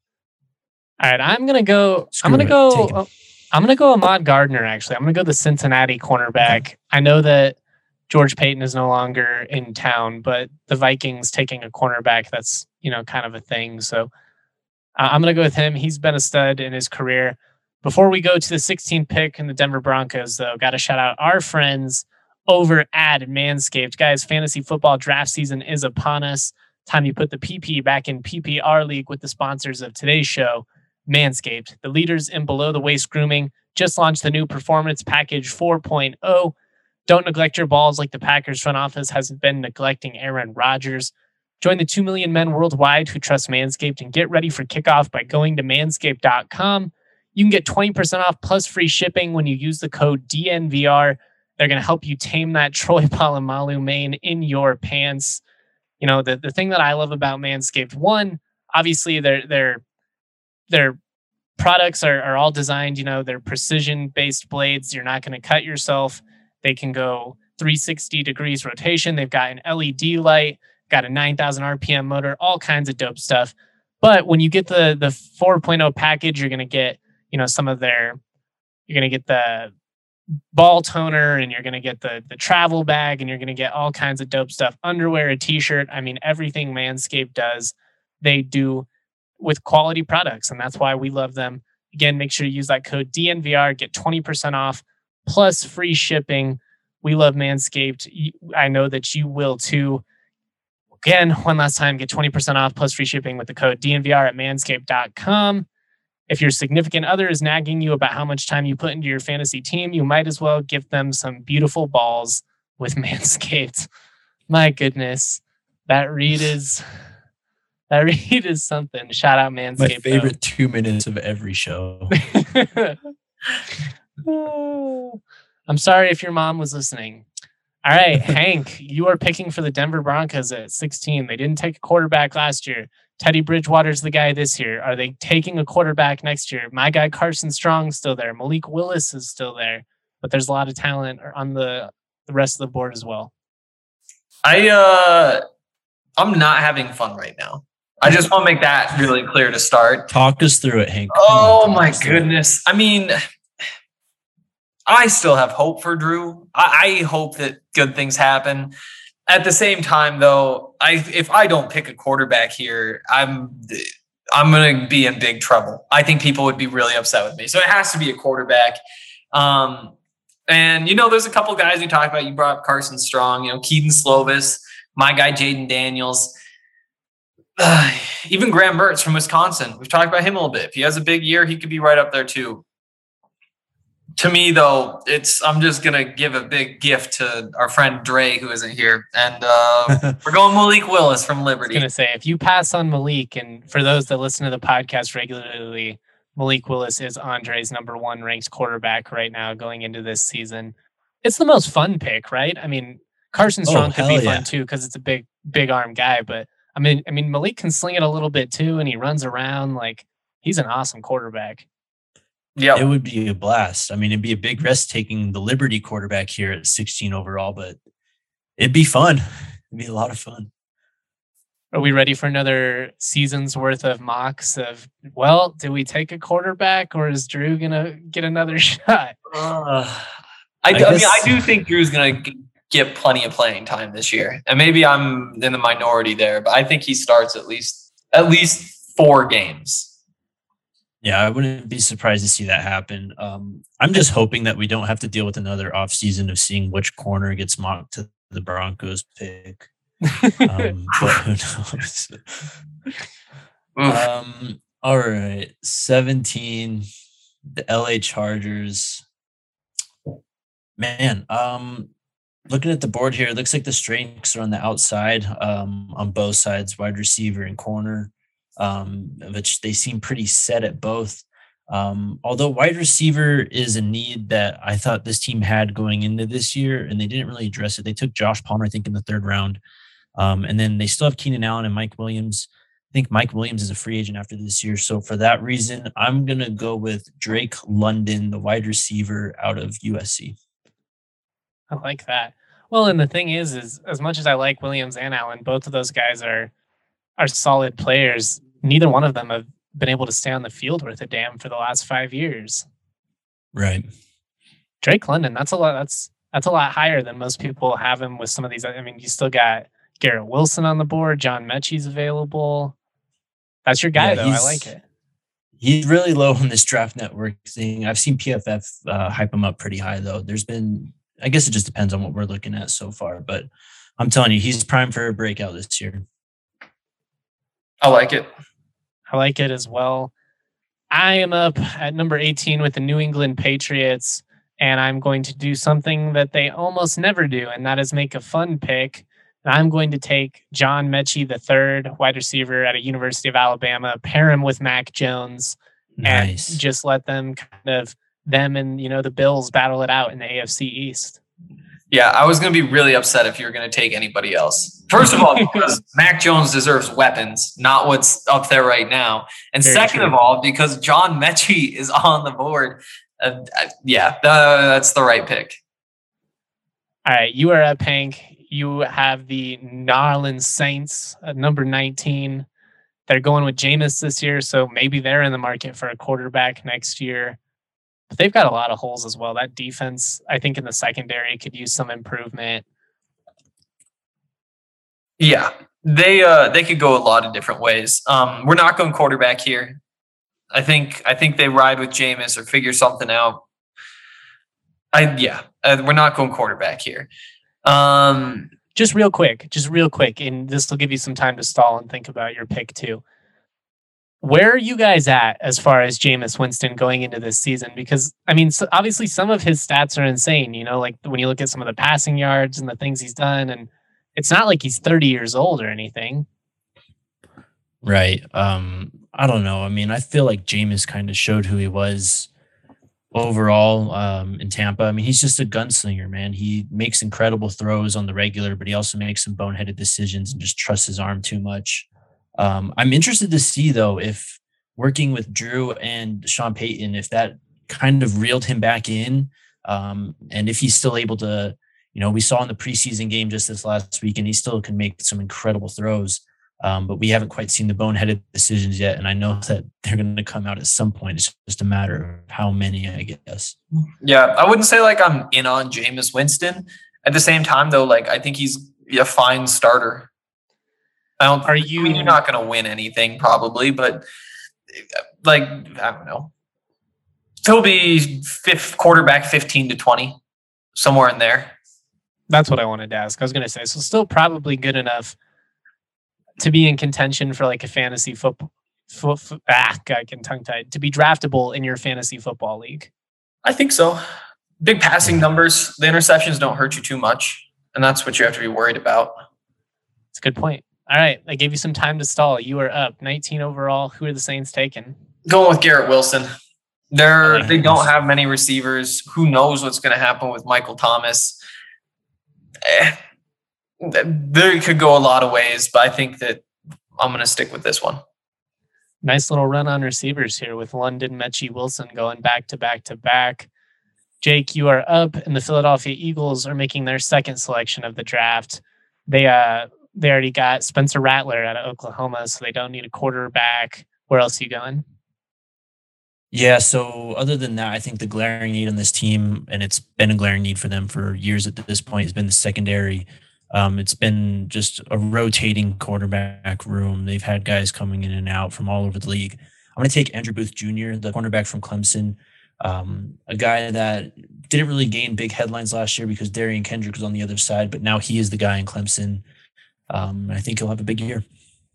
right, I'm gonna go.
Screw
I'm gonna
it.
go.
Take him.
uh, I'm gonna go Ahmad Gardner. Actually, I'm gonna go the Cincinnati cornerback. I know that George Payton is no longer in town, but the Vikings taking a cornerback, that's, you know, kind of a thing. So uh, I'm gonna go with him. He's been a stud in his career. Before we go to the sixteenth pick in the Denver Broncos, though, got to shout out our friends over at Manscaped. Guys, fantasy football draft season is upon us. Time you put the P P back in P P R League with the sponsors of today's show, Manscaped, the leaders in below-the-waist grooming, just launched the new Performance Package four point oh. Don't neglect your balls like the Packers front office hasn't been neglecting Aaron Rodgers. Join the two million men worldwide who trust Manscaped and get ready for kickoff by going to manscaped dot com. You can get twenty percent off plus free shipping when you use the code D N V R. They're going to help you tame that Troy Polamalu mane in your pants. You know, the, the thing that I love about Manscaped, one, obviously they're they're Their products are, are all designed, you know, they're precision-based blades. You're not going to cut yourself. They can go three hundred sixty degrees rotation. They've got an L E D light, got a nine thousand R P M motor, all kinds of dope stuff. But when you get the the four point oh package, you're going to get, you know, some of their, you're going to get the ball toner, and you're going to get the the travel bag, and you're going to get all kinds of dope stuff. Underwear, a t-shirt. I mean, everything Manscaped does, they do with quality products, and that's why we love them. Again, make sure you use that code D N V R, get twenty percent off plus free shipping. We love Manscaped. I know that you will too. Again, one last time, get twenty percent off plus free shipping with the code D N V R at manscaped dot com. If your significant other is nagging you about how much time you put into your fantasy team, you might as well give them some beautiful balls with Manscaped. My goodness, that read is that read is something. Shout out Manscaped.
My favorite though. two minutes of every show.
I'm sorry if your mom was listening. All right, Hank, you are picking for the Denver Broncos at sixteen. They didn't take a quarterback last year. Teddy Bridgewater's the guy this year. Are they taking a quarterback next year? My guy Carson Strong's still there. Malik Willis is still there. but there's a lot of talent on the, the rest of the board as well.
I, uh, I'm not having fun right now. I just want to make that really clear to start.
Talk us through it, Hank. Come
oh
on,
my goodness. I mean, I still have hope for Drew. I, I hope that good things happen. At the same time, though, I if I don't pick a quarterback here, I'm I'm going to be in big trouble. I think people would be really upset with me. So it has to be a quarterback. Um, and, you know, there's a couple guys we talked about. You brought up Carson Strong, you know, Keaton Slovis, my guy Jaden Daniels. Uh, even Graham Mertz from Wisconsin. We've talked about him a little bit. If he has a big year, he could be right up there too. To me, though, it's I'm just gonna give a big gift to our friend Dre, who isn't here, and uh, we're going Malik Willis from Liberty.
I was gonna say, if you pass on Malik, and for those that listen to the podcast regularly, Malik Willis is Andre's number one ranked quarterback right now going into this season. It's the most fun pick, right? I mean, Carson Strong
oh,
could be
yeah.
fun too because it's a big, big arm guy, but I mean, I mean Malik can sling it a little bit too, and he runs around like he's an awesome quarterback.
Yeah,
it would be a blast. I mean, it'd be a big risk taking the Liberty quarterback here at sixteen overall, but it'd be fun. It'd be a lot of fun.
Are we ready for another season's worth of mocks of, well, do we take a quarterback or is Drew going to get another shot?
Uh, I,
I,
I
guess,
mean, I do think Drew's going to get plenty of playing time this year. And maybe I'm in the minority there, but I think he starts at least at least four games.
Yeah, I wouldn't be surprised to see that happen. Um, I'm just hoping that we don't have to deal with another offseason of seeing which corner gets mocked to the Broncos pick. Um, but who knows? um, all right, seventeen, the L A Chargers. Man, um, looking at the board here, it looks like the strengths are on the outside, um, on both sides, wide receiver and corner. Um, which they seem pretty set at both. Um, although wide receiver is a need that I thought this team had going into this year, and they didn't really address it. They took Josh Palmer, I think, in the third round. Um, and then they still have Keenan Allen and Mike Williams. I think Mike Williams is a free agent after this year. So for that reason, I'm going to go with Drake London, the wide receiver out of U S C.
I like that. Well, and the thing is, is as much as I like Williams and Allen, both of those guys are are solid players. Neither one of them have been able to stay on the field worth a damn for the last five years.
Right.
Drake London, that's a lot. That's that's a lot higher than most people have him with some of these. I mean, you still got Garrett Wilson on the board. John Mechie's available. That's your guy, yeah, though. I like it.
He's really low on this draft network thing. I've seen P F F uh, hype him up pretty high, though. There's been, I guess it just depends on what we're looking at so far, but I'm telling you, he's primed for a breakout this year.
I like it.
I like it as well. I am up at number eighteen with the New England Patriots, and I'm going to do something that they almost never do, and that is make a fun pick. And I'm going to take John Mechie the third, wide receiver at a University of Alabama, pair him with Mac Jones,
nice.
And just let them kind of, them and, you know, the Bills battle it out in the A F C East.
Yeah, I was going to be really upset if you were going to take anybody else. First of all, because Mac Jones deserves weapons, not what's up there right now. And Very second true. of all, because John Mechie is on the board. Uh, yeah, uh, that's the right pick.
All right, you are up, Hank. You have the New Orleans Saints at number nineteen. They're going with Jameis this year, so maybe they're in the market for a quarterback next year. But they've got a lot of holes as well. That defense, I think, in the secondary could use some improvement.
Yeah, they uh, they could go a lot of different ways. Um, we're not going quarterback here. I think I think they ride with Jameis or figure something out. I yeah, uh, we're not going quarterback here. Um,
just real quick, just real quick, and this will give you some time to stall and think about your pick too. Where are you guys at as far as Jameis Winston going into this season? Because, I mean, so obviously some of his stats are insane, you know, like when you look at some of the passing yards and the things he's done, and it's not like he's thirty years old or anything.
Right. Um, I don't know. I mean, I feel like Jameis kind of showed who he was overall um, in Tampa. I mean, he's just a gunslinger, man. He makes incredible throws on the regular, but he also makes some boneheaded decisions and just trusts his arm too much. Um, I'm interested to see, though, if working with Drew and Sean Payton, if that kind of reeled him back in Um, and if he's still able to, you know, we saw in the preseason game just this last week, and he still can make some incredible throws. Um, but we haven't quite seen the boneheaded decisions yet. And I know that they're going to come out at some point. It's just a matter of how many, I guess.
Yeah, I wouldn't say like I'm in on Jameis Winston. At the same time, though, like I think he's a fine starter. I don't. Are you? I mean, you're not going to win anything probably, but like I don't know. He'll be fifth quarterback, fifteen to twenty, somewhere in there.
That's what I wanted to ask. I was going to say, so still probably good enough to be in contention for like a fantasy football. Fo- fo- ah, I can tongue tied to be draftable in your fantasy football league.
I think so. Big passing numbers. The interceptions don't hurt you too much, and that's what you have to be worried about.
That's a good point. All right, I gave you some time to stall. You are up nineteen overall. Who are the Saints taking?
Going with Garrett Wilson. They're like they this. don't have many receivers. Who knows what's going to happen with Michael Thomas? Eh, they could go a lot of ways, but I think that I'm going to stick with this one.
Nice little run on receivers here with London, Mechie, Wilson going back to back to back. Jake, you are up, and the Philadelphia Eagles are making their second selection of the draft. They uh they already got Spencer Rattler out of Oklahoma, so they don't need a quarterback. Where else are you going?
Yeah, so other than that, I think the glaring need on this team, and it's been a glaring need for them for years at this point, has been the secondary. Um, it's been just a rotating quarterback room. They've had guys coming in and out from all over the league. I'm going to take Andrew Booth Junior, the cornerback from Clemson, um, a guy that didn't really gain big headlines last year because Darian Kendrick was on the other side, but now he is the guy in Clemson. Um, I think he'll have a big year.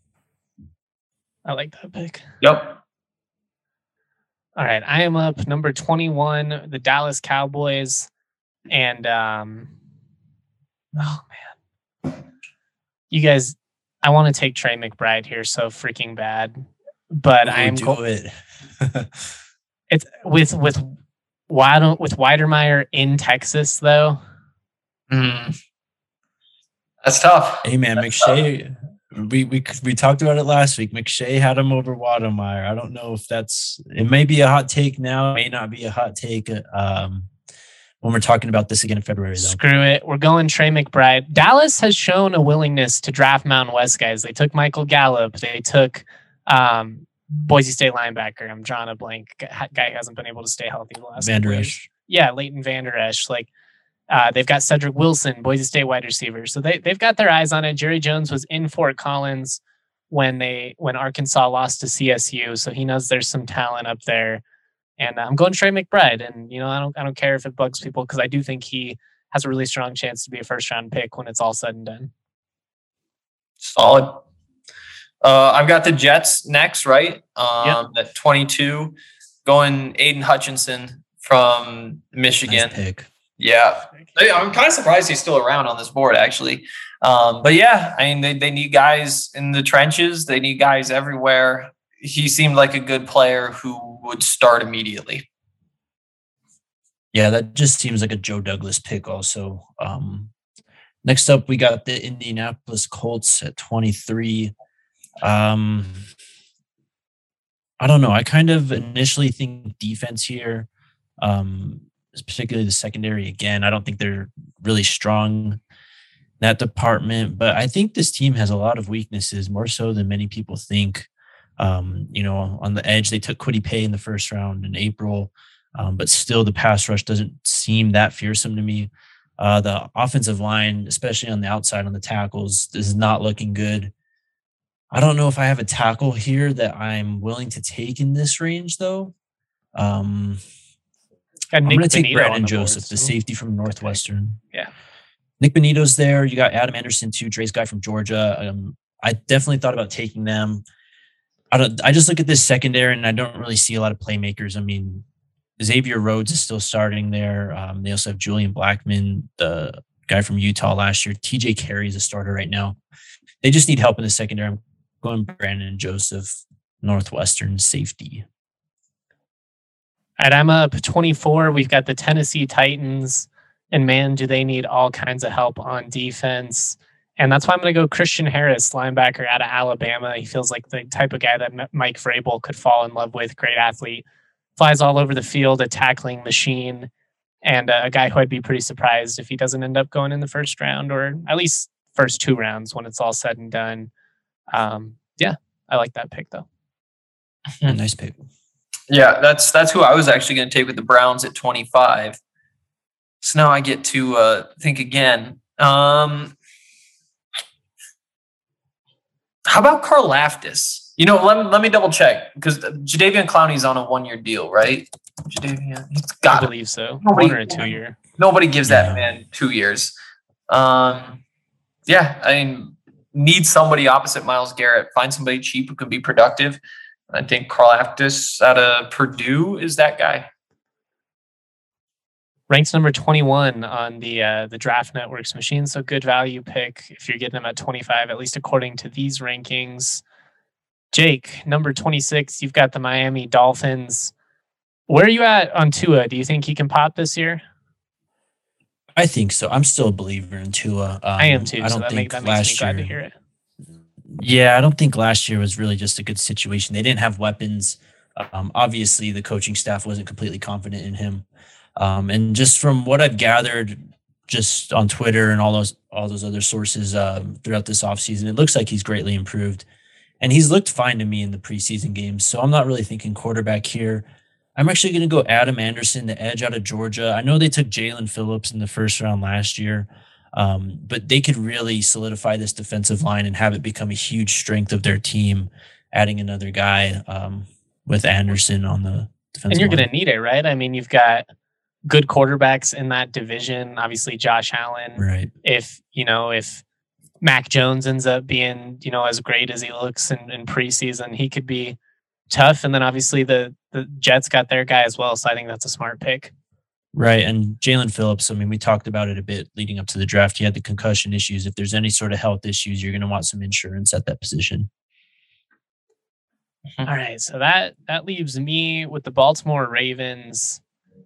I like that pick.
Yep.
All right, I am up number twenty-one, the Dallas Cowboys, and um, oh man, you guys, I want to take Trey McBride here so freaking bad, but I am
do
go-
it.
It's with with why don't with Weidermeyer in Texas though.
Mm. That's tough.
Hey man, That's McShay. Tough. We we we talked about it last week. McShay had him over Weidermeyer. I don't know if that's. It may be a hot take now. It may not be a hot take. Um, when we're talking about this again in February, though.
Screw it. We're going Trey McBride. Dallas has shown a willingness to draft Mountain West guys. They took Michael Gallup. They took um, Boise State linebacker. I'm drawing a blank. Guy who hasn't been able to stay healthy the last
Van Der
years.
Esch.
Yeah, Leighton Van Der Esch. Like. Uh, they've got Cedric Wilson, Boise State wide receiver. So they, they've got their eyes on it. Jerry Jones was in Fort Collins when they when Arkansas lost to C S U. So he knows there's some talent up there. And I'm going Trey McBride. And, you know, I don't I don't care if it bugs people because I do think he has a really strong chance to be a first round pick when it's all said and done.
Solid. Uh, I've got the Jets next, right? Um, yep. At twenty-two, going Aiden Hutchinson from Michigan.
Nice pick.
Yeah, I'm kind of surprised he's still around on this board, actually. Um, but yeah, I mean, they, they need guys in the trenches. They need guys everywhere. He seemed like a good player who would start immediately.
Yeah, that just seems like a Joe Douglas pick also. Um, next up, we got the Indianapolis Colts at twenty-three. Um, I don't know. I kind of initially think defense here. Um particularly the secondary. Again, I don't think they're really strong in that department, but I think this team has a lot of weaknesses, more so than many people think. Um, you know, on the edge, they took Kwity Paye in the first round in April, um, but still the pass rush doesn't seem that fearsome to me. Uh, the offensive line, especially on the outside on the tackles, is not looking good. I don't know if I have a tackle here that I'm willing to take in this range, though. Um, I'm going to take Brandon Joseph, board, the so. safety from Northwestern.
Okay. Yeah.
Nick Benito's there. You got Adam Anderson, too, Dre's guy from Georgia. Um, I definitely thought about taking them. I don't. I just look at this secondary, and I don't really see a lot of playmakers. I mean, Xavier Rhodes is still starting there. Um, they also have Julian Blackman, the guy from Utah last year. T J Carey is a starter right now. They just need help in the secondary. I'm going Brandon Joseph, Northwestern safety.
All right, I'm up twenty-four. We've got the Tennessee Titans, and man, do they need all kinds of help on defense. And that's why I'm going to go Christian Harris, linebacker out of Alabama. He feels like the type of guy that Mike Vrabel could fall in love with. Great athlete. Flies all over the field, a tackling machine. and uh, a guy who I'd be pretty surprised if he doesn't end up going in the first round, or at least first two rounds when it's all said and done. Um, yeah, I like that pick though.
Nice pick.
Yeah, that's that's who I was actually going to take with the Browns at twenty-five. So now I get to uh, think again. Um, how about Karlaftis? You know, let me, let me double check, because Jadeveon Clowney's on a one-year deal, right? Jadeveon, he's got
I believe so.
Nobody,
One or a two-year.
Nobody gives that
Yeah.
man two years. Um, yeah, I mean, need somebody opposite Myles Garrett. Find somebody cheap who can be productive. I think Karlaftis out of Purdue is that guy.
Ranks number twenty-one on the uh, the Draft Network's machine, so good value pick if you're getting him at twenty-five, at least according to these rankings. Jake, number twenty-six, you've got the Miami Dolphins. Where are you at on Tua? Do you think he can pop this year?
I think so. I'm still a believer in Tua. Um,
I am too,
I
so
don't
that,
think
make, that makes me
last
glad
year,
to hear it.
Yeah, I don't think last year was really just a good situation. They didn't have weapons. Um, obviously, the coaching staff wasn't completely confident in him. Um, and just from what I've gathered, just on Twitter and all those all those other sources um, throughout this offseason, it looks like he's greatly improved. And he's looked fine to me in the preseason games. So I'm not really thinking quarterback here. I'm actually going to go Adam Anderson, the edge out of Georgia. I know they took Jalen Phillips in the first round last year, um, but they could really solidify this defensive line and have it become a huge strength of their team, adding another guy um, with Anderson on the defensive
And you're
line.
going to need it, right? I mean, you've got good quarterbacks in that division. Obviously, Josh Allen.
Right.
If, you know, if Mac Jones ends up being, you know, as great as he looks in, in preseason, he could be tough. And then obviously the, the Jets got their guy as well. So I think that's a smart pick.
Right. And Jalen Phillips, I mean, we talked about it a bit leading up to the draft. He had the concussion issues. If there's any sort of health issues, you're going to want some insurance at that position.
All right. So that, that leaves me with the Baltimore Ravens.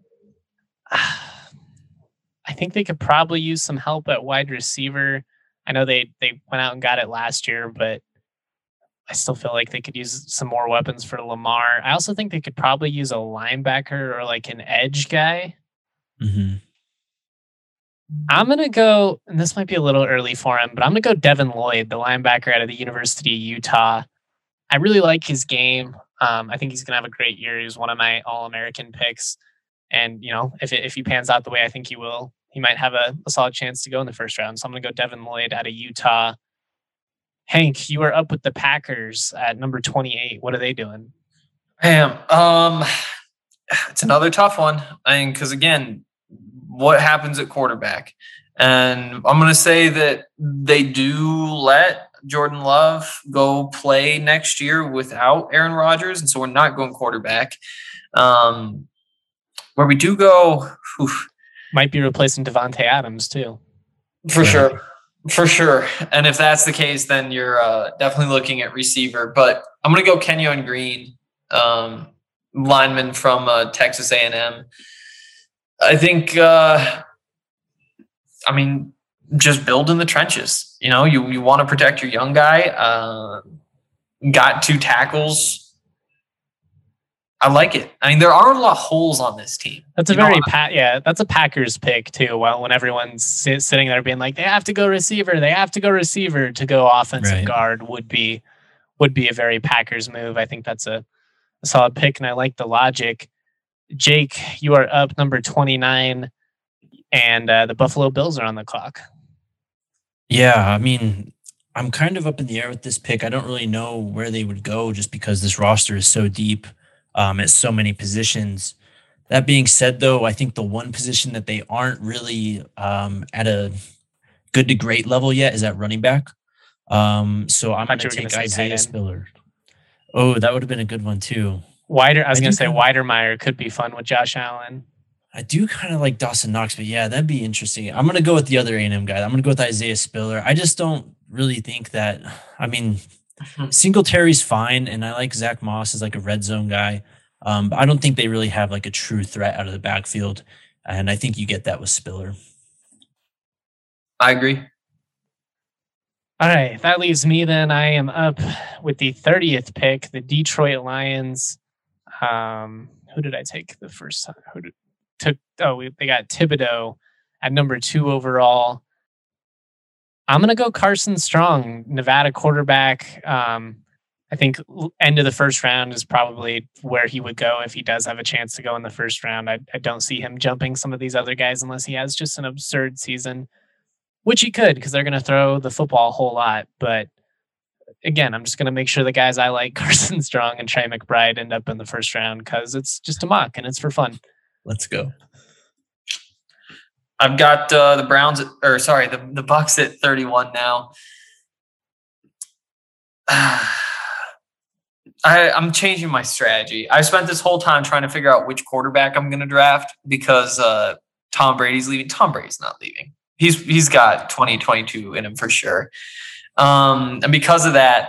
I think they could probably use some help at wide receiver. I know they, they went out and got it last year, but I still feel like they could use some more weapons for Lamar. I also think they could probably use a linebacker or like an edge guy.
Mm-hmm.
I'm going to go, and this might be a little early for him, but I'm going to go Devin Lloyd, the linebacker out of the University of Utah. I really like his game. Um, I think he's going to have a great year. He's one of my All-American picks. And, you know, if it, if he pans out the way I think he will, he might have a, a solid chance to go in the first round. So I'm going to go Devin Lloyd out of Utah. Hank, you are up with the Packers at number twenty-eight. What are they doing?
Damn. Um, it's another tough one. I mean, because again, what happens at quarterback? And I'm going to say that they do let Jordan Love go play next year without Aaron Rodgers. And so we're not going quarterback. Um, where we do go, whew,
Might be replacing Devontae Adams too.
for sure. For sure. And if that's the case, then you're uh, definitely looking at receiver. But I'm going to go Kenyon Green, um, lineman from uh, Texas A and M. I think, uh, I mean, just build in the trenches. You know, you, you want to protect your young guy. Uh, got two tackles. I like it. I mean, there are a lot of holes on this team.
That's a
You know,
very pa- yeah. That's a Packers pick too. Well, when everyone's sit- sitting there being like, they have to go receiver, they have to go receiver to go offensive
Right.
guard would be would be a very Packers move. I think that's a, a solid pick, and I like the logic. Jake, you are up number twenty-nine, and uh, the Buffalo Bills are on the clock.
Yeah, I mean, I'm kind of up in the air with this pick. I don't really know where they would go just because this roster is so deep um, at so many positions. That being said, though, I think the one position that they aren't really um, at a good to great level yet is at running back. Um, so I'm going
Thought
to
you were
take
gonna say tight
Isaiah
end.
Spiller. Oh, that would have been a good one, too.
Wider, I was
I
going
do
to say
kinda-
Weidermeyer could be fun with Josh Allen.
I do kind of like Dawson Knox, but yeah, that'd be interesting. I'm going to go with the other A and M guy. I'm going to go with Isaiah Spiller. I just don't really think that, I mean, Singletary's fine, and I like Zach Moss as like a red zone guy. Um, but I don't think they really have like a true threat out of the backfield. And I think you get that with Spiller.
I agree.
All right, that leaves me then. I am up with the thirtieth pick, the Detroit Lions. Um, who did I take the first time? Who did took, oh, they got Thibodeau at number two overall. I'm going to go Carson Strong, Nevada quarterback. Um, I think end of the first round is probably where he would go if he does have a chance to go in the first round. I, I don't see him jumping some of these other guys unless he has just an absurd season, which he could because they're going to throw the football a whole lot. But again, I'm just going to make sure the guys I like, Carson Strong and Trey McBride, end up in the first round because it's just a mock and it's for fun.
Let's go.
I've got uh, the Browns, at, or sorry, the, the Bucks at thirty-one now. I, I'm changing my strategy. I spent this whole time trying to figure out which quarterback I'm going to draft because uh, Tom Brady's leaving. Tom Brady's not leaving. He's he's got twenty twenty-two in him for sure. Um, and because of that,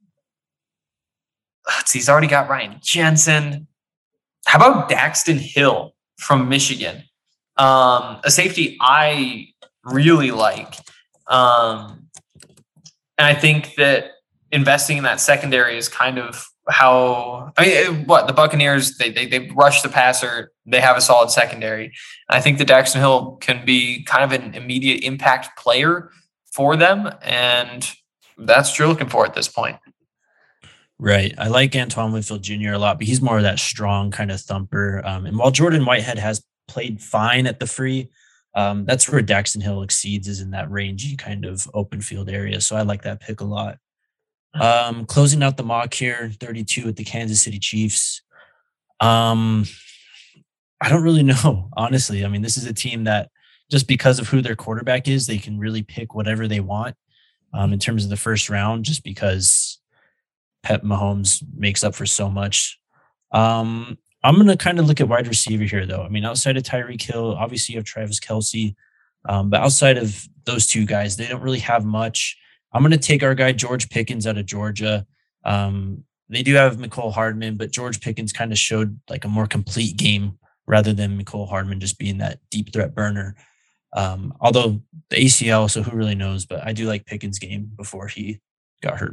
let's see, he's already got Ryan Jensen. How about Daxton Hill from Michigan? Um, a safety I really like. Um, and I think that investing in that secondary is kind of how, I mean, what the Buccaneers, they, they, they rush the passer. They have a solid secondary. I think that Daxton Hill can be kind of an immediate impact player for them. And that's what you're looking for at this point.
Right. I like Antoine Winfield Junior a lot, but he's more of that strong kind of thumper. Um, and while Jordan Whitehead has played fine at the free, um, that's where Daxton Hill exceeds, is in that rangy kind of open field area. So I like that pick a lot. Um, closing out the mock here, thirty-two with the Kansas City Chiefs. Um, I don't really know, honestly. I mean, this is a team that just because of who their quarterback is, they can really pick whatever they want um, in terms of the first round, just because Pep Mahomes makes up for so much. Um, I'm going to kind of look at wide receiver here, though. I mean, outside of Tyreek Hill, obviously you have Travis Kelce. Um, but outside of those two guys, they don't really have much. I'm going to take our guy George Pickens out of Georgia. Um, they do have Mecole Hardman, but George Pickens kind of showed like a more complete game rather than Mecole Hardman just being that deep threat burner. Um, although the A C L, so who really knows, but I do like Pickens' game before he got hurt.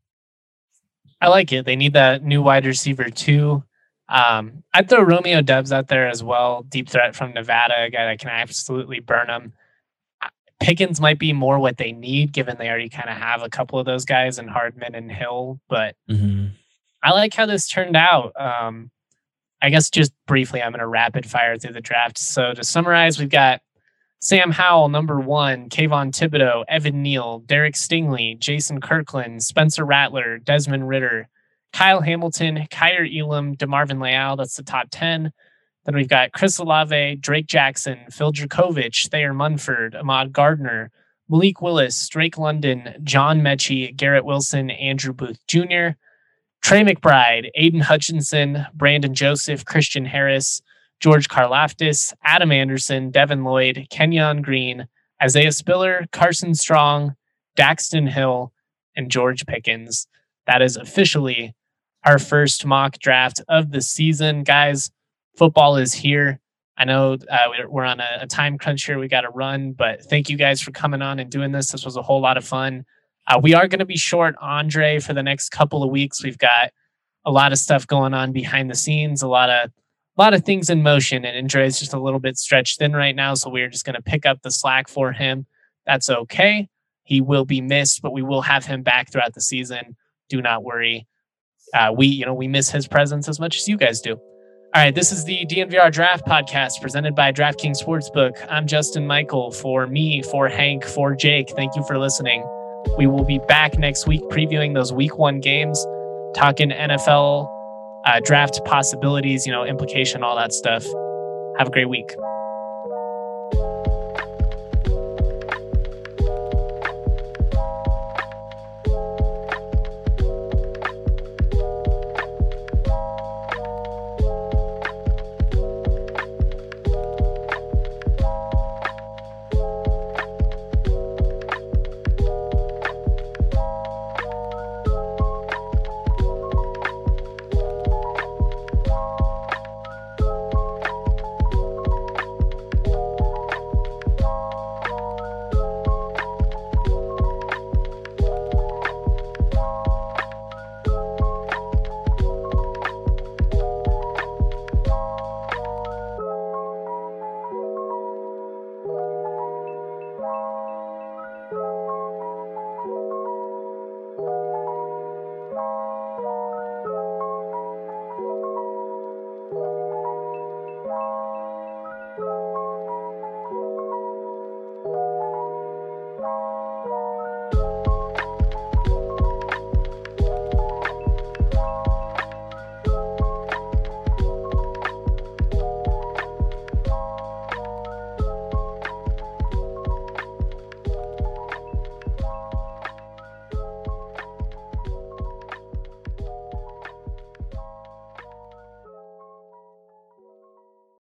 I like it. They need that new wide receiver too. Um, I'd throw Romeo Doubs out there as well. Deep threat from Nevada, a guy that can absolutely burn them. Pickens might be more what they need, given they already kind of have a couple of those guys in Hardman and Hill. But mm-hmm. I like how this turned out. Um, I guess just briefly, I'm going to rapid fire through the draft. So to summarize, we've got Sam Howell, number one, Kayvon Thibodeau, Evan Neal, Derek Stingley, Jason Kirkland, Spencer Rattler, Desmond Ridder, Kyle Hamilton, Kyer Elam, DeMarvin Leal. That's the top ten. Then we've got Chris Olave, Drake Jackson, Phil Dracovic, Thayer Munford, Ahmad Gardner, Malik Willis, Drake London, John Mechie, Garrett Wilson, Andrew Booth Junior, Trey McBride, Aiden Hutchinson, Brandon Joseph, Christian Harris, George Karlaftis, Adam Anderson, Devin Lloyd, Kenyon Green, Isaiah Spiller, Carson Strong, Daxton Hill, and George Pickens. That is officially our first mock draft of the season. Guys, football is here. I know uh, we're on a, a time crunch here. We got to run, but thank you guys for coming on and doing this. This was a whole lot of fun. Uh, we are going to be short Andre for the next couple of weeks. We've got a lot of stuff going on behind the scenes, a lot of a lot of things in motion, and Andre is just a little bit stretched thin right now, so we're just going to pick up the slack for him. That's okay. He will be missed, but we will have him back throughout the season. Do not worry. Uh, we, you know, we miss his presence as much as you guys do. All right, this is the D N V R Draft Podcast presented by DraftKings Sportsbook. I'm Justin Michael. For me, for Hank, for Jake, thank you for listening. We will be back next week previewing those week one games, talking N F L uh, draft possibilities, you know, implication, all that stuff. Have a great week.